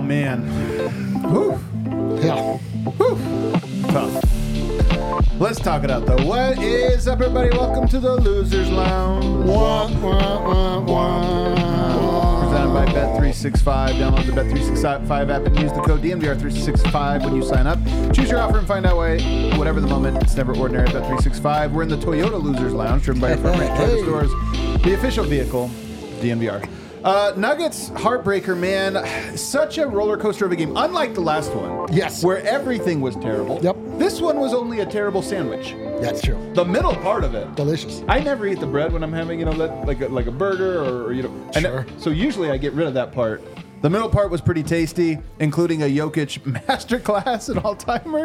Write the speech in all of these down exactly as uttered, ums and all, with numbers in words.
Oh, man. Whew. Yeah. Whew. Tough. Let's talk it out, though. What is up, everybody? Welcome to the Losers Lounge. Wah, wah, wah, wah. Presented by Bet three sixty-five. Download the Bet three sixty-five app and use the code D N V R three sixty-five when you sign up. Choose your offer and find out why, whatever the moment, it's never ordinary at Bet three sixty-five. We're in the Toyota Losers Lounge, driven by your friend Toyota Hey. Stores, the official vehicle of D N V R. Uh, Nuggets heartbreaker, man. Such a roller coaster of a game. Unlike the last one, Yes. where everything was terrible. Yep. This one was only a terrible sandwich. That's true. The middle part of it. Delicious. I never eat the bread when I'm having, you know, that, like a, like a burger or, or you know. and Sure. So usually I get rid of that part. The middle part was pretty tasty, including a Jokic masterclass, an all-timer.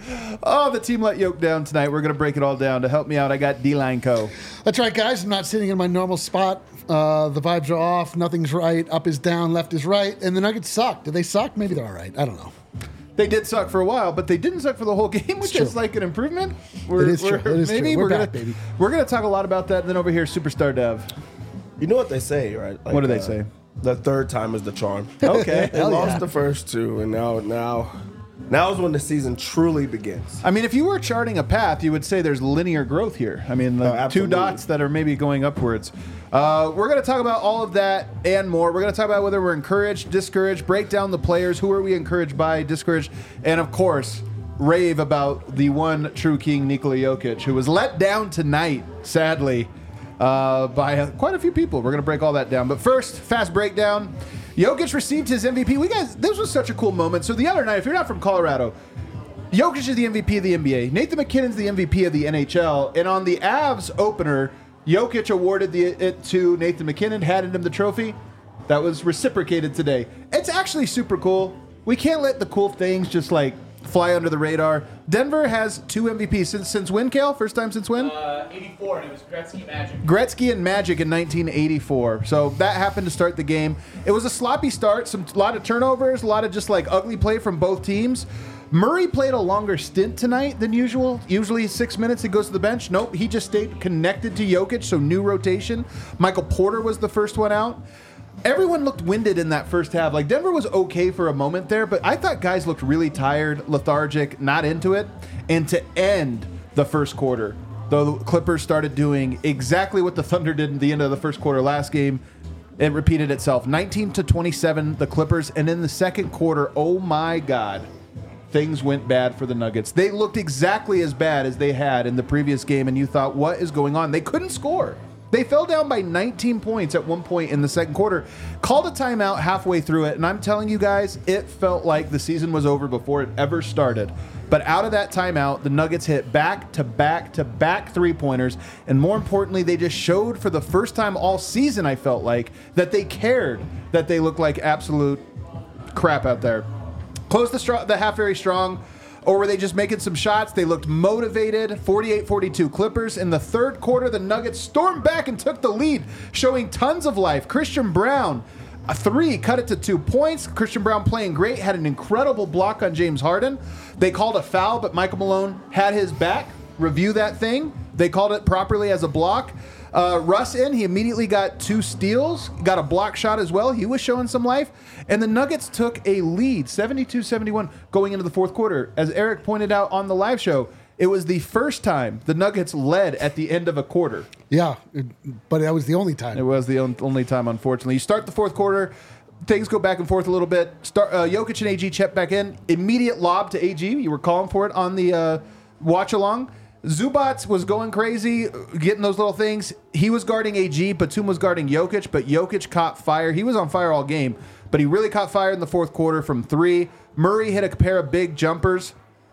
Oh, the team let Jokic down tonight. We're going to break it all down. To help me out, I got D-Line Co. That's right, guys. I'm not sitting in my normal spot. Uh, the vibes are off. Nothing's right. Up is down. Left is right. And the Nuggets suck. Do they suck? Maybe they're all right. I don't know. They did suck for a while, but they didn't suck for the whole game, which It's is true. like an improvement. We're, It is we're, true. It is maybe true. We're gonna, back, baby. We're going to talk a lot about that. And then over here, Superstar Dev. You know what they say, right? Like, What do they uh, say? The third time is the charm. Okay. They Hell lost yeah. the first two, and now, now, now is when the season truly begins. I mean, if you were charting a path, you would say there's linear growth here. I mean, the Oh, two absolutely. dots that are maybe going upwards. Uh, we're going to talk about all of that and more. We're going to talk about whether we're encouraged, discouraged, break down the players. Who are we encouraged by, discouraged? And, of course, rave about the one true king, Nikola Jokic, who was let down tonight, sadly, uh, by uh, quite a few people. We're going to break all that down. But first, fast breakdown. Jokic received his M V P. We guys, this was such a cool moment. So the other night, if you're not from Colorado, Jokic is the M V P of the N B A. Nathan McKinnon's the M V P of the N H L. And on the Avs opener, Jokic awarded the, it to Nathan McKinnon, handed him the trophy. That was reciprocated today. It's actually super cool. We can't let the cool things just like fly under the radar. Denver has two M V Ps since since when, Kale? First time since when? Uh, eighty-four, and it was Gretzky Magic. Gretzky and Magic in nineteen eighty-four. So that happened to start the game. It was a sloppy start, some a lot of turnovers, a lot of just like ugly play from both teams. Murray played a longer stint tonight than usual. Usually six minutes, he goes to the bench. Nope, he just stayed connected to Jokic, so new rotation. Michael Porter was the first one out. Everyone looked winded in that first half. Like, Denver was okay for a moment there, but I thought guys looked really tired, lethargic, not into it. And to end the first quarter, the Clippers started doing exactly what the Thunder did at the end of the first quarter last game. It repeated itself. nineteen to twenty-seven, the Clippers. And in the second quarter, oh my God, things went bad for the Nuggets. They looked exactly as bad as they had in the previous game, and you thought, what is going on? They couldn't score. They fell down by nineteen points at one point in the second quarter, called a timeout halfway through it, and I'm telling you guys, it felt like the season was over before it ever started. But out of that timeout, the Nuggets hit back-to-back-to-back three-pointers, and more importantly, they just showed for the first time all season, I felt like, that they cared, that they looked like absolute crap out there. Closed the, str- the half very strong. Or were they just making some shots? They looked motivated. forty-eight forty-two Clippers. In the third quarter, the Nuggets stormed back and took the lead, showing tons of life. Christian Brown, a three, cut it to two points. Christian Brown playing great, had an incredible block on James Harden. They called a foul, but Michael Malone had his back. Review that thing. They called it properly as a block. Uh, Russ in, he immediately got two steals, got a block shot as well. He was showing some life. And the Nuggets took a lead, seventy-two seventy-one, going into the fourth quarter. As Eric pointed out on the live show, it was the first time the Nuggets led at the end of a quarter. Yeah, it- but that was the only It time. was the on- only time, unfortunately. You start the fourth quarter, things go back and forth a little bit. Start uh, Jokic and A G check back in. Immediate lob to A G. You were calling for it on the uh, watch-along. Zubats was going crazy, getting those little things. He was guarding A G. Batum was guarding Jokic, but Jokic caught fire. He was on fire all game, but he really caught fire in the fourth quarter from three. Murray hit a pair of big jumpers.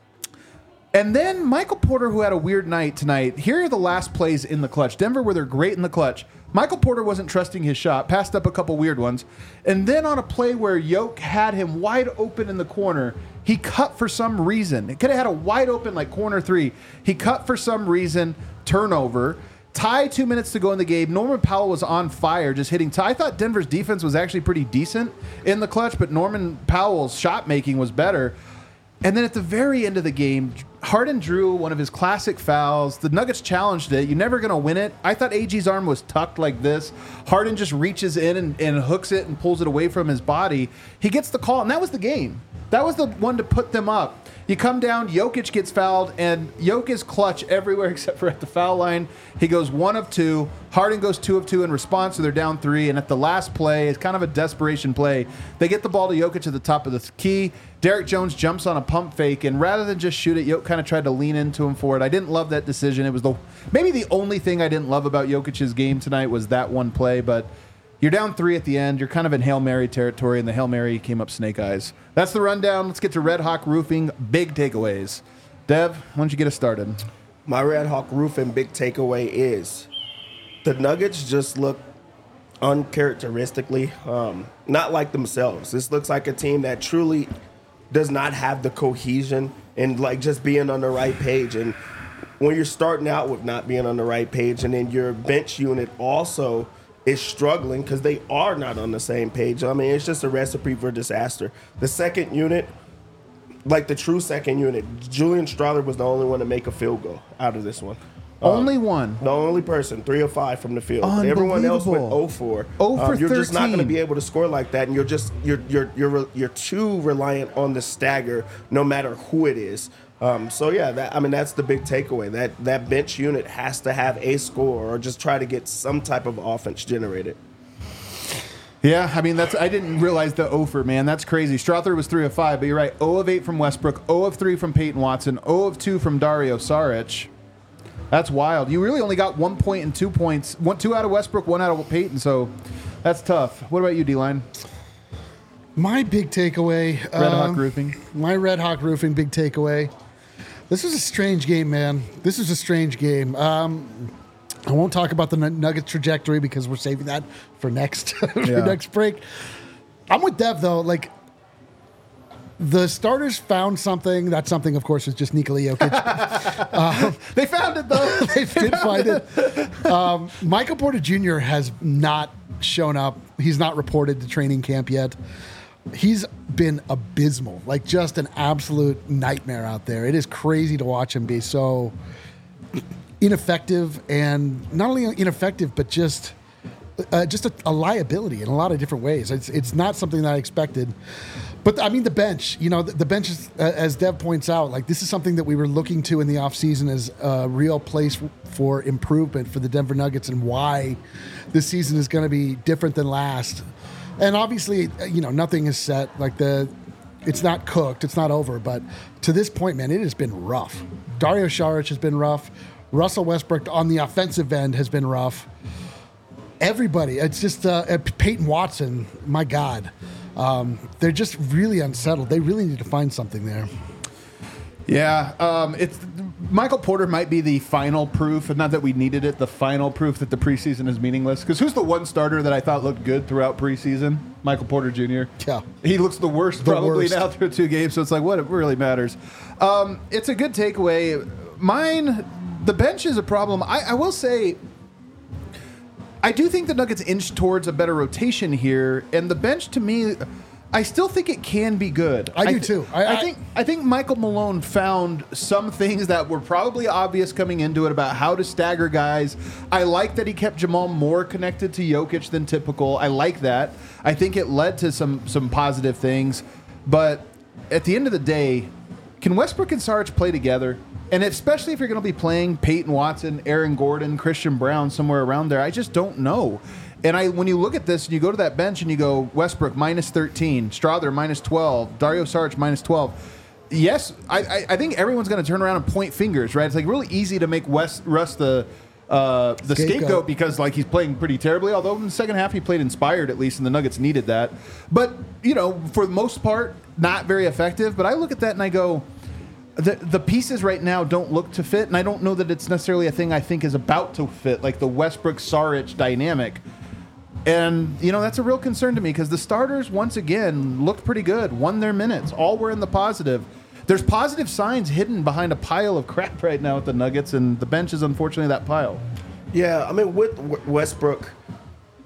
And then Michael Porter, who had a weird night tonight. Here are the last plays in the clutch. Denver, where they're great in the clutch. Michael Porter wasn't trusting his shot, passed up a couple weird ones. And then on a play where Jokic had him wide open in the corner, he cut for some reason. It could have had a wide open like corner three. He cut for some reason, turnover. Tie, two minutes to go in the game. Norman Powell was on fire, just hitting tie. I thought Denver's defense was actually pretty decent in the clutch, but Norman Powell's shot making was better. And then at the very end of the game, Harden drew one of his classic fouls. The Nuggets challenged it. You're never going to win it. I thought A G's arm was tucked like this. Harden just reaches in and, and hooks it and pulls it away from his body. He gets the call, and that was the game. That was the one to put them up. You come down, Jokic gets fouled, and Jokic is clutch everywhere except for at the foul line. He goes one of two. Harden goes two of two in response, so they're down three. And at the last play, it's kind of a desperation play. They get the ball to Jokic at the top of the key. Derek Jones jumps on a pump fake, and rather than just shoot it, Jokic kind of tried to lean into him for it. I didn't love that decision. It was the maybe the only thing I didn't love about Jokic's game tonight was that one play, but you're down three at the end. You're kind of in Hail Mary territory, and the Hail Mary came up snake eyes. That's the rundown. Let's get to Red Hawk Roofing. Big takeaways. Dev, why don't you get us started? My Red Hawk Roofing big takeaway is the Nuggets just look uncharacteristically um, not like themselves. This looks like a team that truly does not have the cohesion and like just being on the right page. And when you're starting out with not being on the right page, and then your bench unit also is struggling because they are not on the same page. I mean, it's just a recipe for disaster. The second unit, like the true second unit, Julian Strawther was the only one to make a field goal out of this one. Only um, one. The only person, three of five from the field. Everyone else went zero for. zero for um, you're just not going to thirteen. be able to score like that, and you're just you're you're you're you're too reliant on the stagger, no matter who it is. Um, so yeah, that I mean that's the big takeaway. That that bench unit has to have a score or just try to get some type of offense generated. Yeah, I mean, that's I didn't realize the over, man. That's crazy. Strawther was three of five, but you're right. zero of eight from Westbrook, zero of three from Peyton Watson, zero of two from Dario Saric. That's wild. You really only got one point and two points. One, two out of Westbrook, one out of Peyton, so that's tough. What about you, D-Line? My big takeaway. Red Hawk um, Roofing. My Red Hawk Roofing big takeaway. This was a strange game, man. This was a strange game. Um, I won't talk about the Nuggets trajectory because we're saving that for next for Yeah. next break. I'm with Dev though. Like the starters found something. That something, of course, is just Nikola Jokic. um, They found it, though. they did find it. Um, Michael Porter Junior has not shown up. He's not reported to training camp yet. He's been abysmal, like just an absolute nightmare out there. It is crazy to watch him be so ineffective, and not only ineffective, but just uh, just a, a liability in a lot of different ways. It's it's not something that I expected. But I mean, the bench, you know, the, the bench is, uh, as Dev points out, like this is something that we were looking to in the offseason as a real place for improvement for the Denver Nuggets, and why this season is going to be different than last. And obviously, you know, nothing is set. Like the, it's not cooked. It's not over. But to this point, man, it has been rough. Dario Saric has been rough. Russell Westbrook on the offensive end has been rough. Everybody, it's just uh, Peyton Watson. My God, um, they're just really unsettled. They really need to find something there. Yeah, um, it's Michael Porter might be the final proof, and not that we needed it, the final proof that the preseason is meaningless. Because who's the one starter that I thought looked good throughout preseason? Michael Porter Junior Yeah. He looks the worst The probably worst. now through two games, so it's like, what it really matters. Um, it's a good takeaway. Mine, the bench is a problem. I, I will say, I do think the Nuggets inch towards a better rotation here, and the bench to me, I still think it can be good. I do th- too. I, I- I think I think Michael Malone found some things that were probably obvious coming into it about how to stagger guys. I like that he kept Jamal more connected to Jokic than typical. I like that. I think it led to some some positive things. But at the end of the day, can Westbrook and Saric play together? And especially if you're going to be playing Peyton Watson, Aaron Gordon, Christian Brown, somewhere around there, I just don't know. And I, when you look at this and you go to that bench and you go Westbrook minus thirteen, Strawther minus twelve, Dario Saric minus twelve. Yes, I, I, I think everyone's going to turn around and point fingers, right? It's like really easy to make West, Russ the uh, the Scapegoat. scapegoat because like he's playing pretty terribly. Although in the second half he played inspired at least, and the Nuggets needed that. But you know, for the most part, not very effective. But I look at that and I go, the the pieces right now don't look to fit, and I don't know that it's necessarily a thing I think is about to fit, like the Westbrook Saric dynamic. And, you know, that's a real concern to me because the starters, once again, looked pretty good, won their minutes, all were in the positive. There's positive signs hidden behind a pile of crap right now at the Nuggets, and the bench is unfortunately that pile. Yeah, I mean, with W- Westbrook,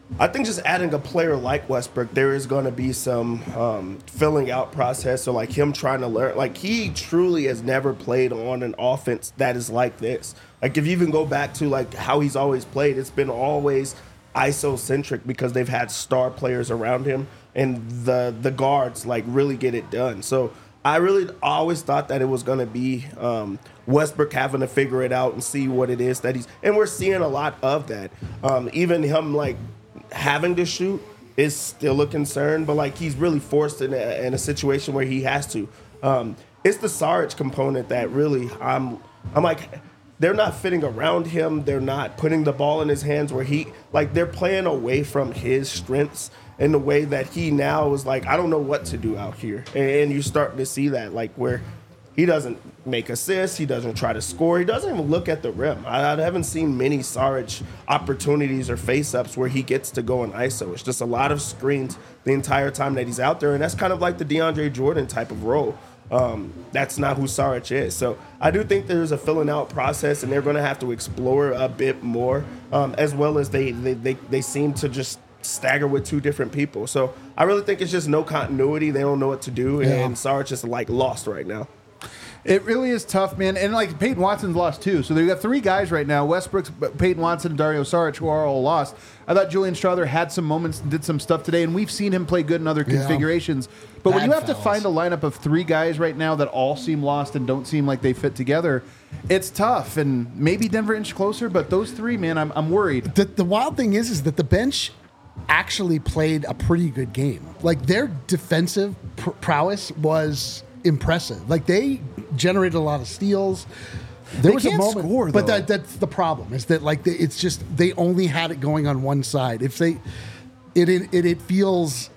I think just adding a player like Westbrook, there is going to be some um, filling out process. So like him trying to learn, like he truly has never played on an offense that is like this. Like if you even go back to like how he's always played, it's been always I S O centric because they've had star players around him and the the guards like really get it done. So I really always thought that it was going to be um, Westbrook having to figure it out and see what it is that he's, and we're seeing a lot of that. Um, even him like having to shoot is still a concern, but like he's really forced in a, in a situation where he has to. Um, it's the Saric component that really I'm I'm like they're not fitting around him. They're not putting the ball in his hands where he like they're playing away from his strengths in the way that he now is like I don't know what to do out here, and you're starting to see that like where he doesn't make assists, he doesn't try to score, he doesn't even look at the rim. I, I haven't seen many Saric opportunities or face-ups where he gets to go in I S O. It's just a lot of screens the entire time that he's out there, and that's kind of like the DeAndre Jordan type of role. Um, that's not who Saric is. So I do think there's a filling out process, and they're going to have to explore a bit more, um, as well as they, they, they, they seem to just stagger with two different people. So I really think it's just no continuity. They don't know what to do, Yeah. and Saric is like lost right now. It really is tough, man. And like Peyton Watson's lost too. So they've got three guys right now: Westbrook, Peyton Watson, and Dario Saric, who are all lost. I thought Julian Strawther had some moments and did some stuff today, and we've seen him play good in other Yeah. configurations. But when Bad you have fouls. to find a lineup of three guys right now that all seem lost and don't seem like they fit together, it's tough. And maybe Denver inch closer, but those three, man, I'm I'm worried. The, the wild thing is, is that the bench actually played a pretty good game. Like their defensive pr- prowess was impressive. Like they generated a lot of steals. There They was can't a moment, score, but though. that, that's the problem. Is that like they, it's just they only had it going on one side. If they, it it it, it feels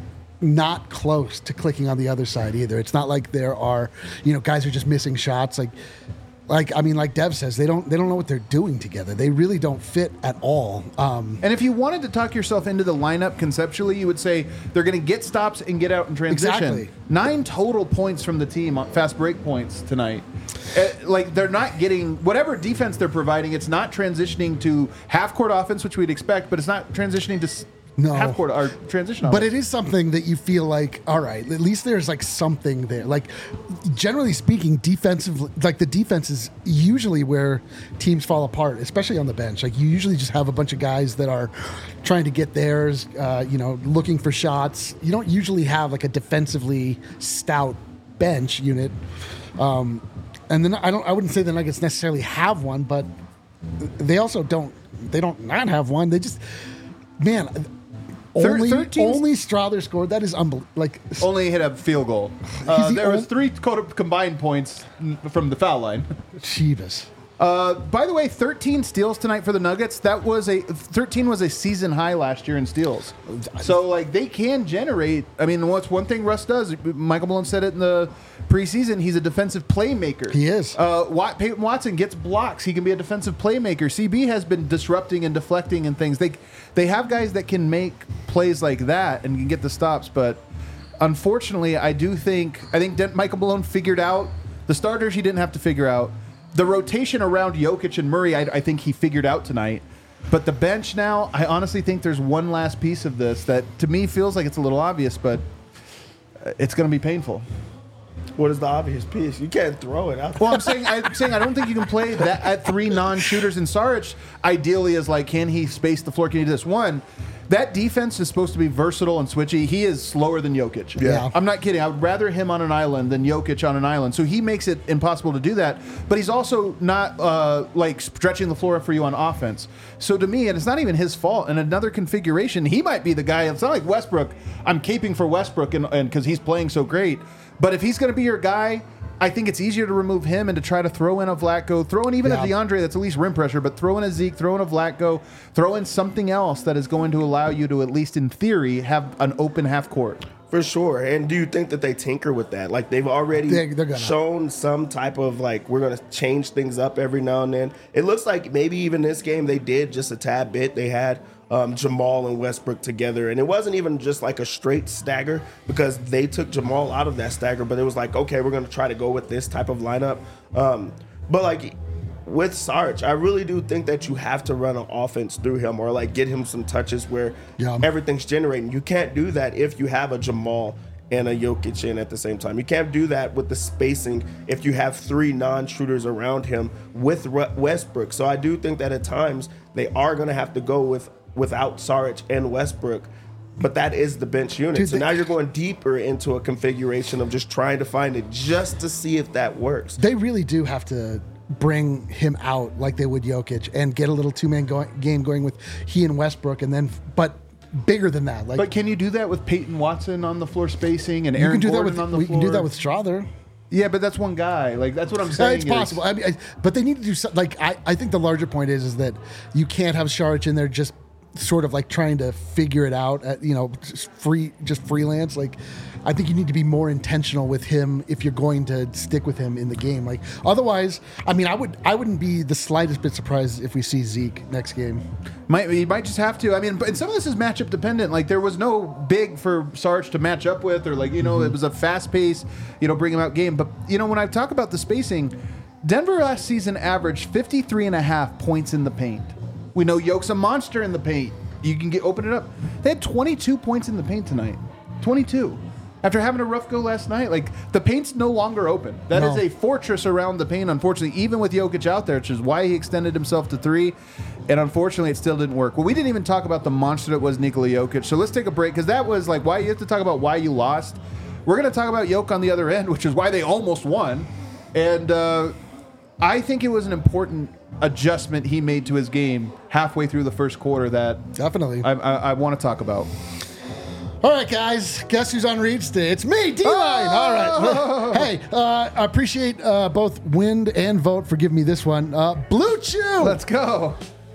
not close to clicking on the other side either. It's not like there are, you know, guys who are just missing shots. Like, like I mean, like Dev says, they don't they don't know what they're doing together. They really don't fit at all. Um, And if you wanted to talk yourself into the lineup conceptually, you would say they're going to get stops and get out in transition. Exactly. Nine total points from the team on fast break points tonight. Uh, like they're not getting whatever defense they're providing. It's not transitioning to half court offense, which we'd expect, but it's not transitioning to s- No. half court or transition. But offense. it is something that you feel like, all right, at least there's like something there. Like, generally speaking, defensive, like the defense is usually where teams fall apart, especially on the bench. Like, you usually just have a bunch of guys that are trying to get theirs, uh, you know, looking for shots. You don't usually have like a defensively stout bench unit. Um, and then I don't, I wouldn't say the Nuggets necessarily have one, but they also don't, they don't not have one. They just, man. Thir- Only, thirteen only Strawther scored. That is unbelievable. Like, only hit a field goal. Uh, the there was ol- three co- combined points n- from the foul line. Chivas. Uh, by the way, thirteen steals tonight for the Nuggets. That was a thirteen was a season high last year in steals. So like they can generate. I mean, what's one thing Russ does? Michael Malone said it in the preseason. He's a defensive playmaker. He is. Uh, Wat, Peyton Watson gets blocks. He can be a defensive playmaker. C B has been disrupting and deflecting and things. They they have guys that can make plays like that and can get the stops. But unfortunately, I do think I think Den- Michael Malone figured out the starters. He didn't have to figure out. The rotation around Jokic and Murray, I, I think he figured out tonight. But the bench now, I honestly think there's one last piece of this that to me feels like it's a little obvious, but it's going to be painful. What is the obvious piece? You can't throw it out. Well, I'm saying I'm saying I don't think you can play that at three non-shooters. And Saric ideally is like, can he space the floor? Can he do this? One, that defense is supposed to be versatile and switchy. He is slower than Jokic. Yeah. I'm not kidding. I would rather him on an island than Jokic on an island. So he makes it impossible to do that. But he's also not uh, like stretching the floor for you on offense. So to me, and it's not even his fault. In another configuration, he might be the guy. It's not like Westbrook. I'm caping for Westbrook and because he's playing so great. But if he's going to be your guy, I think it's easier to remove him and to try to throw in a Vlatko, throw in even Yeah. a DeAndre that's at least rim pressure, but throw in a Zeke, throw in a Vlatko, throw in something else that is going to allow you to, at least in theory, have an open half court. For sure. And do you think that they tinker with that? Like they've already They- they're gonna. shown some type of like we're going to change things up every now and then. It looks like maybe even this game they did just a tad bit. They had um, Jamal and Westbrook together, and it wasn't even just like a straight stagger because they took Jamal out of that stagger. But it was like, okay, we're going to try to go with this type of lineup. Um, but like with Sarge, I really do think that you have to run an offense through him or like get him some touches where Yeah. everything's generating. You can't do that if you have a Jamal and a Jokic in at the same time. You can't do that with the spacing if you have three non-shooters around him with Westbrook. So I do think that at times they are going to have to go with without Saric and Westbrook. But that is the bench unit. Dude, so they- now you're going deeper into a configuration of just trying to find it just to see if that works. They really do have to bring him out like they would Jokic and get a little two-man go- game going with he and Westbrook, and then but bigger than that. Like But can you do that with Peyton Watson on the floor spacing and you Aaron can do that Gordon with on the we floor? can do that with Strother. Yeah, but that's one guy. Like that's what I'm Uh, saying. it's is- possible. I mean, I, but they need to do something. Like I, I think the larger point is is that you can't have Saric in there just sort of like trying to figure it out. At, you know, just free, just freelance. Like I think you need to be more intentional with him if you're going to stick with him in the game. Like otherwise, I mean, I would, I wouldn't be the slightest bit surprised if we see Zeke next game. Might you might just have to. I mean, but and some of this is matchup dependent. Like there was no big for Sarge to match up with, or like you know, it was a fast pace, you know, bring him out game. But you know, when I talk about the spacing, Denver last season averaged fifty-three and a half points in the paint. We know Yoke's a monster in the paint. You can get open it up. They had twenty-two points in the paint tonight. twenty-two. After having a rough go last night, like the paint's no longer open. That No. is a fortress around the paint, unfortunately, even with Jokic out there, which is why he extended himself to three. And unfortunately, it still didn't work. Well, we didn't even talk about the monster that was Nikola Jokic. So let's take a break because that was like why you have to talk about why you lost. We're going to talk about Jokic on the other end, which is why they almost won. And uh, I think it was an important adjustment he made to his game halfway through the first quarter that Definitely. I, I, I want to talk about. All right, guys. Guess who's on read today? It's me, D-Line. All right. Hey, uh, I appreciate uh, both Wind and Vote for giving me this one. Uh, Blue Chew. Let's go.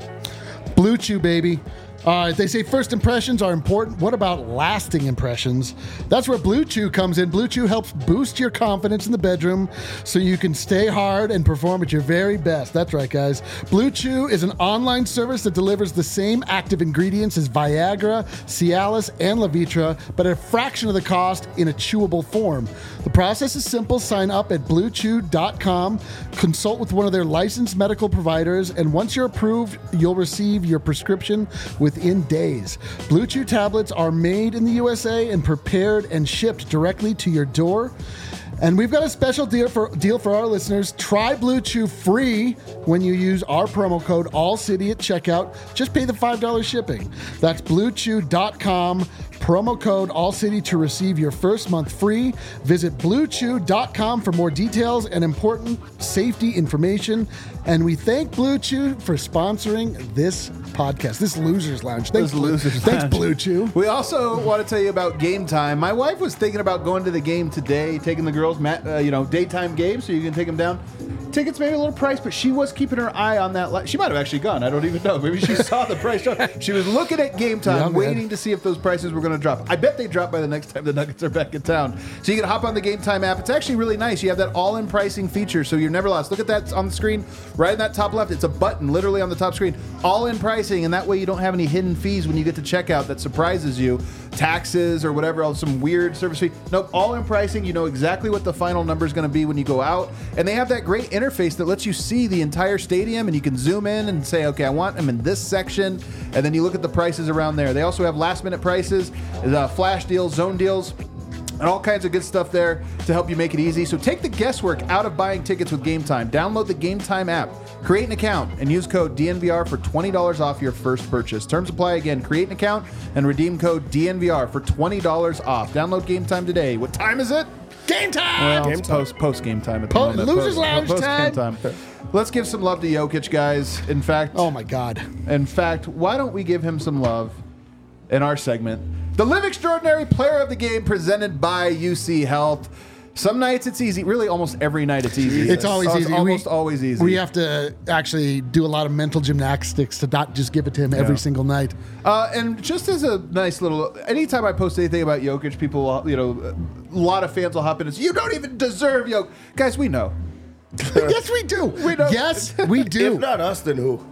Blue Chew, baby. Uh, they say first impressions are important. What about lasting impressions? That's where Blue Chew comes in. Blue Chew helps boost your confidence in the bedroom so you can stay hard and perform at your very best. That's right, guys. Blue Chew is an online service that delivers the same active ingredients as Viagra, Cialis, and Levitra, but at a fraction of the cost in a chewable form. The process is simple. Sign up at blue chew dot com, consult with one of their licensed medical providers, and once you're approved, you'll receive your prescription within days. Blue Chew tablets are made in the U S A and prepared and shipped directly to your door. And we've got a special deal for deal for our listeners. Try Blue Chew free when you use our promo code ALLCITY at checkout. Just pay the five dollars shipping. That's blue chew dot com, promo code ALLCITY to receive your first month free. Visit blue chew dot com for more details and important safety information. And we thank Blue Chew for sponsoring this podcast, this Losers Lounge. Thanks, This Blue, Losers thanks Lounge. Blue Chew. We also want to tell you about Game Time. My wife was thinking about going to the game today, taking the girls, mat, uh, you know, daytime game, so you can take them down. Tickets maybe a little price, but she was keeping her eye on that. Li- she might have actually gone. I don't even know. Maybe she saw the price drop. She was looking at Game Time, Yeah, man. waiting to see if those prices were going to drop. I bet they drop by the next time the Nuggets are back in town. So you can hop on the Game Time app. It's actually really nice. You have that all-in pricing feature, so you're never lost. Look at that on the screen, right in that top left. It's a button, literally on the top screen. All-in pricing, and that way you don't have any hidden fees when you get to checkout that surprises you. Taxes or whatever else, some weird service fee. Nope, all-in pricing. You know exactly what the final number is going to be when you go out. And they have that great interface that lets you see the entire stadium, and you can zoom in and say, okay, I want them in this section. And then you look at the prices around there. They also have last-minute prices, uh, flash deals, zone deals, and all kinds of good stuff there to help you make it easy. So take the guesswork out of buying tickets with Game Time. Download the Game Time app, create an account, and use code D N V R for twenty dollars off your first purchase. Terms apply. Again, create an account and redeem code D N V R for twenty dollars off. Download Game Time today. What time is it? Game time! Well, Game it's time. post post game time at the Po- moment. Losers Post- Lounge post time. game time. Let's give some love to Jokic, guys. In fact, Oh my God. in fact, why don't we give him some love in our segment? The Live Extraordinary Player of the Game presented by U C Health. Some nights it's easy. Really, almost every night it's easy. It's always Oh, easy. almost we, always easy. We have to actually do a lot of mental gymnastics to not just give it to him every Yeah. single night. Uh, and just as a nice little, anytime I post anything about Jokic, people, you know, a lot of fans will hop in and say, "You don't even deserve Jokic." Guys, we know. yes, we do. We know. Yes, we do. If not us, then who?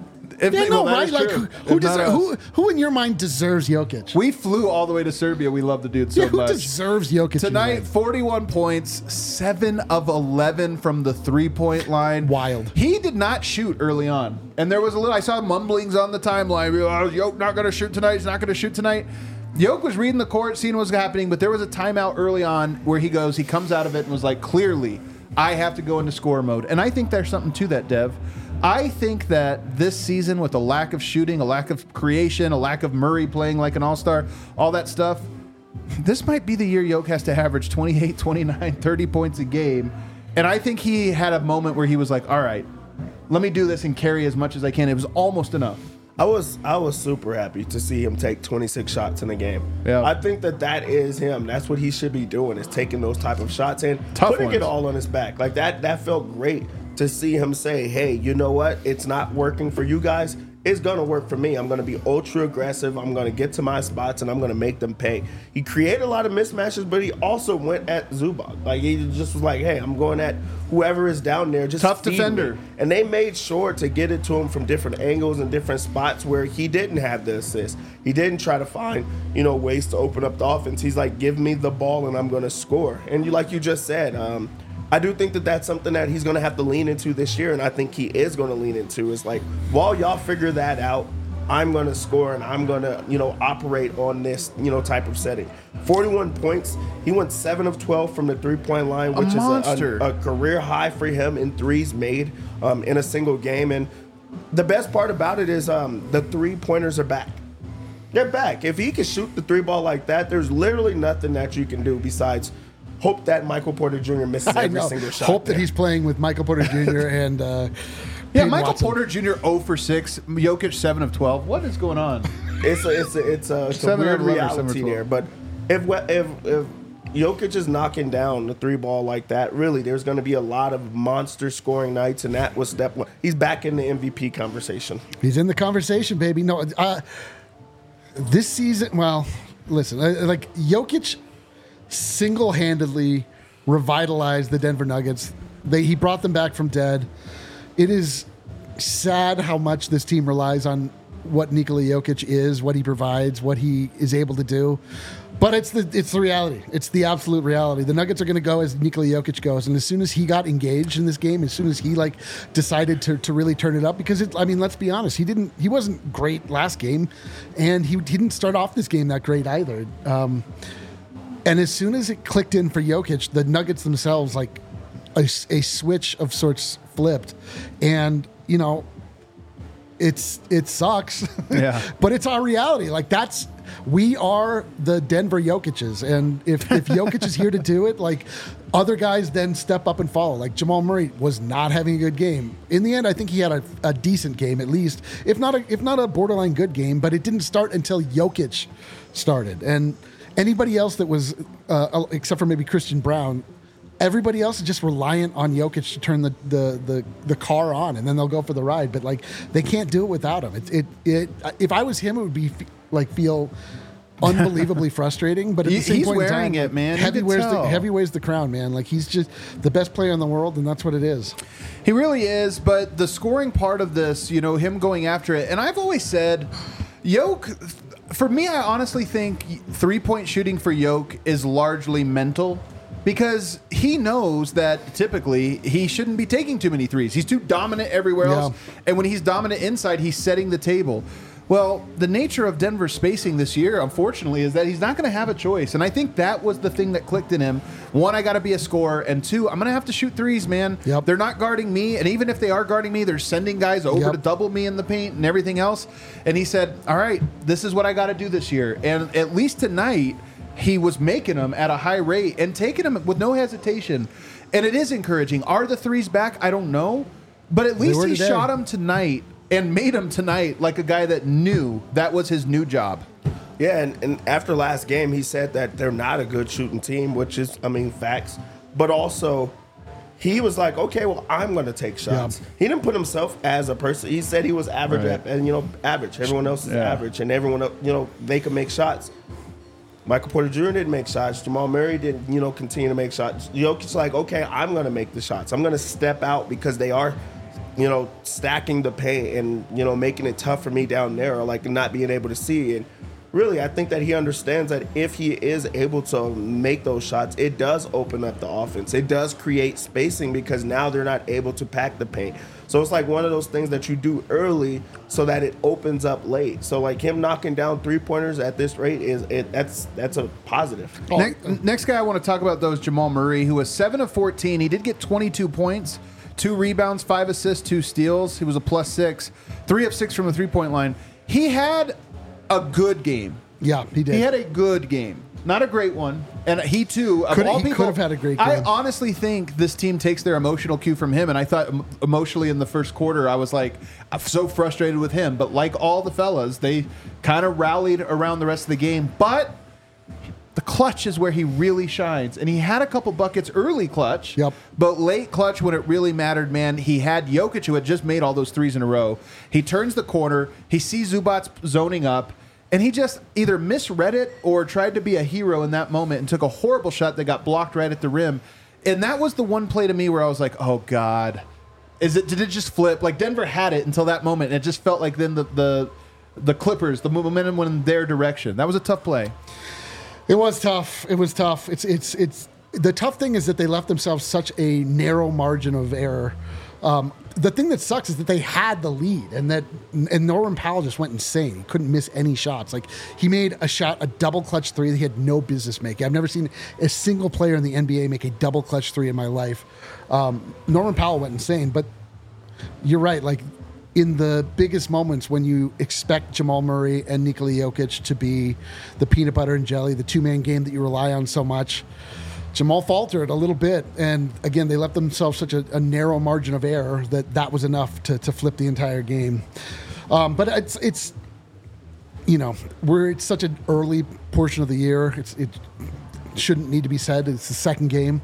If- Yeah, no, well, that right? is Like, true. who, If who, not deser- us. who, who in your mind deserves Jokic? We flew all the way to Serbia. We love the dude so yeah, who much. deserves Jokic in your Tonight, mind? forty-one points, seven of eleven from the three-point line. Wild. He did not shoot early on. And there was a little, I saw mumblings on the timeline. Oh, Yoke not going to shoot tonight. He's not going to shoot tonight. Yoke was reading the court, seeing what was happening, but there was a timeout early on where he goes, he comes out of it and was like, clearly, I have to go into score mode. And I think there's something to that, Dev. I think that this season, with a lack of shooting, a lack of creation, a lack of Murray playing like an all-star, all that stuff, this might be the year Yoke has to average twenty-eight, twenty-nine, thirty points a game. And I think he had a moment where he was like, all right, let me do this and carry as much as I can. It was almost enough. I was I was super happy to see him take twenty-six shots in a game. Yeah. I think that that is him. That's what he should be doing, is taking those type of shots and Tough putting ones. it all on his back. Like that that felt great to see him say, hey, you know what? It's not working for you guys. It's going to work for me. I'm going to be ultra aggressive. I'm going to get to my spots, and I'm going to make them pay. He created a lot of mismatches, but he also went at Zubac. Like, he just was like, hey, I'm going at whoever is down there. Just Tough feed me. defender. And they made sure to get it to him from different angles and different spots where he didn't have the assist. He didn't try to find, you know, ways to open up the offense. He's like, give me the ball and I'm going to score. And you, like you just said, um, I do think that that's something that he's going to have to lean into this year, and I think he is going to lean into. Is like, while y'all figure that out, I'm going to score and I'm going to, you know, operate on this, you know, type of setting. forty-one points. He went seven of twelve from the three-point line, which monster. is a, a, a career high for him in threes made um, in a single game. And the best part about it is um, the three-pointers are back. They're back. If he can shoot the three ball like that, there's literally nothing that you can do besides hope that Michael Porter Junior misses I every know. single shot. Hope there. that he's playing with Michael Porter Junior and uh, Yeah, Peyton Michael Watson. Porter Junior zero for six, Jokic seven of twelve. What is going on? It's a it's a it's a, it's a Seven weird of eleven or seven reality of twelve. there. But if we- if if Jokic is knocking down the three ball like that, really, there's going to be a lot of monster scoring nights, and that was step one. He's back in the M V P conversation. He's in the conversation, baby. No, uh, this season, well, listen, uh, like Jokic single-handedly revitalized the Denver Nuggets. They he brought them back from dead. It is sad how much this team relies on what Nikola Jokic is, what he provides, what he is able to do. But it's the it's the reality. It's the absolute reality. The Nuggets are going to go as Nikola Jokic goes, and as soon as he got engaged in this game, as soon as he like decided to, to really turn it up, because it, I mean, let's be honest, he didn't he wasn't great last game, and he didn't start off this game that great either. Um, and as soon as it clicked in for Jokic, the Nuggets themselves like a, a switch of sorts flipped, and you know. It's it sucks, Yeah. but it's our reality. Like that's we are the Denver Jokic's, and if if Jokic is here to do it, like other guys then step up and follow. Like Jamal Murray was not having a good game. In the end, I think he had a, a decent game at least, if not a if not a borderline good game. But it didn't start until Jokic started, and anybody else that was uh, except for maybe Christian Brown. Everybody else is just reliant on Jokic to turn the, the, the, the car on, and then they'll go for the ride. But like they can't do it without him. It it, it if I was him, it would be f- like feel unbelievably frustrating. But at He- the same he's point in wearing time, it, man. You Heavy can wears the tell. heavy wears the crown, man. Like he's just the best player in the world, and that's what it is. He really is, but the scoring part of this, you know, him going after it, and I've always said, Yoke, for me, I honestly think three-point shooting for Yoke is largely mental. Because he knows that typically he shouldn't be taking too many threes. He's too dominant everywhere Yeah. else. And when he's dominant inside, he's setting the table. Well, the nature of Denver's spacing this year, unfortunately, is that he's not going to have a choice. And I think that was the thing that clicked in him. One, I got to be a scorer. And two, I'm going to have to shoot threes, man. Yep. They're not guarding me. And even if they are guarding me, they're sending guys over Yep. to double me in the paint and everything else. And he said, all right, this is what I got to do this year. And at least tonight, he was making them at a high rate and taking them with no hesitation. And it is encouraging. Are the threes back? I don't know. But at least were he today. shot them tonight and made them tonight like a guy that knew that was his new job. Yeah, and, and after last game, he said that they're not a good shooting team, which is, I mean, facts. But also, he was like, okay, well, I'm going to take shots. Yeah. He didn't put himself as a person. He said he was average, Right. at, and you know, average. Everyone else is Yeah. average, and everyone, else, you know, they can make shots. Michael Porter Junior didn't make shots. Jamal Murray didn't, you know, continue to make shots. Jokic's like, okay, I'm going to make the shots. I'm going to step out because they are you know, stacking the paint and, you know, making it tough for me down there, or like not being able to see. And really, I think that he understands that if he is able to make those shots, it does open up the offense. It does create spacing because now they're not able to pack the paint. So it's like one of those things that you do early so that it opens up late. So like him knocking down three-pointers at this rate, is it, that's that's a positive. Oh, Next, next guy I want to talk about, though, is Jamal Murray, who was seven of fourteen. He did get twenty-two points, two rebounds, five assists, two steals. He was a plus six, three of six from the three-point line. He had a good game. Yeah, he did. He had a good game. Not a great one. And he, too, of Could- all he people, could have had a great I game. honestly think this team takes their emotional cue from him. And I thought em- emotionally in the first quarter, I was like, I'm so frustrated with him. But like all the fellas, they kind of rallied around the rest of the game. But the clutch is where he really shines. And he had a couple buckets early clutch. Yep. But late clutch when it really mattered, man, he had Jokic, who had just made all those threes in a row. He turns the corner. He sees Zubats zoning up. And he just either misread it or tried to be a hero in that moment and took a horrible shot that got blocked right at the rim. And that was the one play to me where I was like, oh, God. Is it? Did it just flip? Like, Denver had it until that moment, and it just felt like then the, the, the Clippers, the momentum went in their direction. That was a tough play. It was tough. It was tough. It's it's it's the tough thing is that they left themselves such a narrow margin of error. Um, the thing that sucks is that they had the lead, and that and Norman Powell just went insane. He couldn't miss any shots. Like he made a shot, a double clutch three that he had no business making. I've never seen a single player in the N B A make a double clutch three in my life. Um, Norman Powell went insane, but you're right. Like in the biggest moments when you expect Jamal Murray and Nikola Jokic to be the peanut butter and jelly, the two-man game that you rely on so much, Jamal faltered a little bit. And again, they left themselves such a, a narrow margin of error that that was enough to, to flip the entire game. Um, but it's, it's, you know, we're it's such an early portion of the year. It's, it shouldn't need to be said. It's the second game.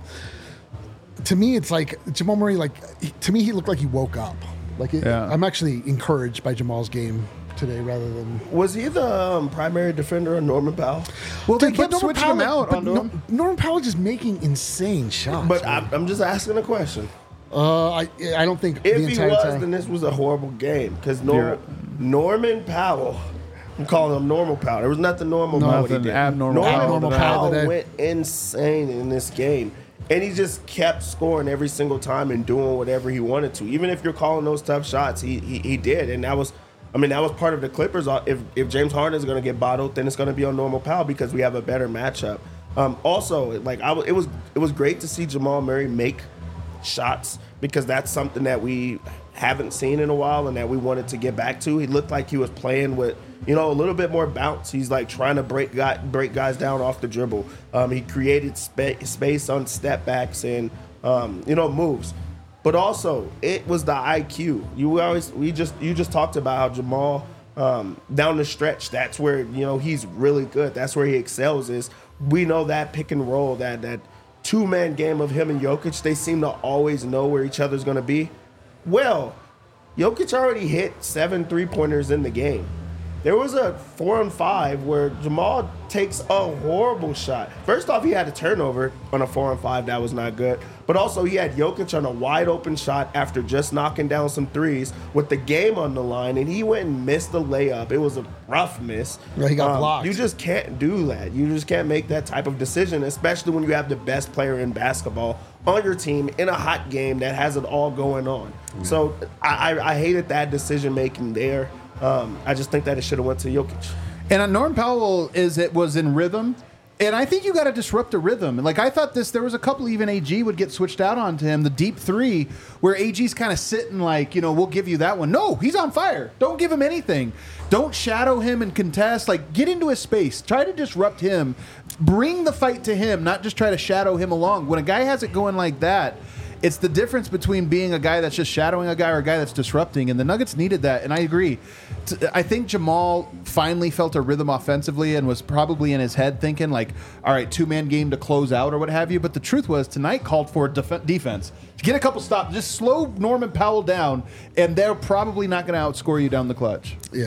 To me, it's like Jamal Murray, like, to me, he looked like he woke up. Like, it, Yeah. I'm actually encouraged by Jamal's game today rather than. Was he the um, primary defender of Norman Powell? Well, they But kept Norman switching Powell, him out but onto Nor- him. Norman Powell just making insane shots. But man. I'm, I'm just asking a question. uh, I I don't think If the he entire was, time. then this was a horrible game because Nor- You're- Norman Powell. I'm calling him Normal Powell. There was nothing normal about what he Nothing did. abnormal Norman Abnormal Powell Powell today. went insane in this game. And he just kept scoring every single time and doing whatever he wanted to. Even if you're calling those tough shots, he he, he did. And that was, I mean, that was part of the Clippers. If if James Harden is going to get bottled, then it's going to be on Normal Powell because we have a better matchup. Um, also, like I, w- it was it was great to see Jamal Murray make shots because that's something that we haven't seen in a while and that we wanted to get back to. He looked like he was playing with, you know, a little bit more bounce. He's like trying to break guy, break guys down off the dribble. Um, he created spa- space on step backs and um, you know moves. But also, it was the I Q. You always we just you just talked about how Jamal um, down the stretch. That's where you know he's really good. That's where he excels. Is we know that pick and roll, that that two man game of him and Jokic. They seem to always know where each other's going to be. Well, Jokic already hit seven three pointers in the game. There was a four and five where Jamal takes a horrible shot. First off, he had a turnover on a four and five that was not good. But also, he had Jokic on a wide open shot after just knocking down some threes with the game on the line, and he went and missed the layup. It was a rough miss. Yeah, he got Um, blocked. You just can't do that. You just can't make that type of decision, especially when you have the best player in basketball on your team in a hot game that has it all going on. So I, I, I hated that decision making there. Um, I just think that it should have went to Jokic. And on Norm Powell is it was in rhythm. And I think you got to disrupt the rhythm. And like I thought this, there was a couple even A G would get switched out onto him. The deep three where A G's kind of sitting like, you know, we'll give you that one. No, he's on fire. Don't give him anything. Don't shadow him and contest. Like get into his space. Try to disrupt him. Bring the fight to him, not just try to shadow him along. When a guy has it going like that, it's the difference between being a guy that's just shadowing a guy or a guy that's disrupting, and the Nuggets needed that, and I agree. T- I think Jamal finally felt a rhythm offensively and was probably in his head thinking, like, all right, two-man game to close out or what have you, but the truth was tonight called for def- defense. To get a couple stops, just slow Norman Powell down, and they're probably not going to outscore you down the clutch. Yeah.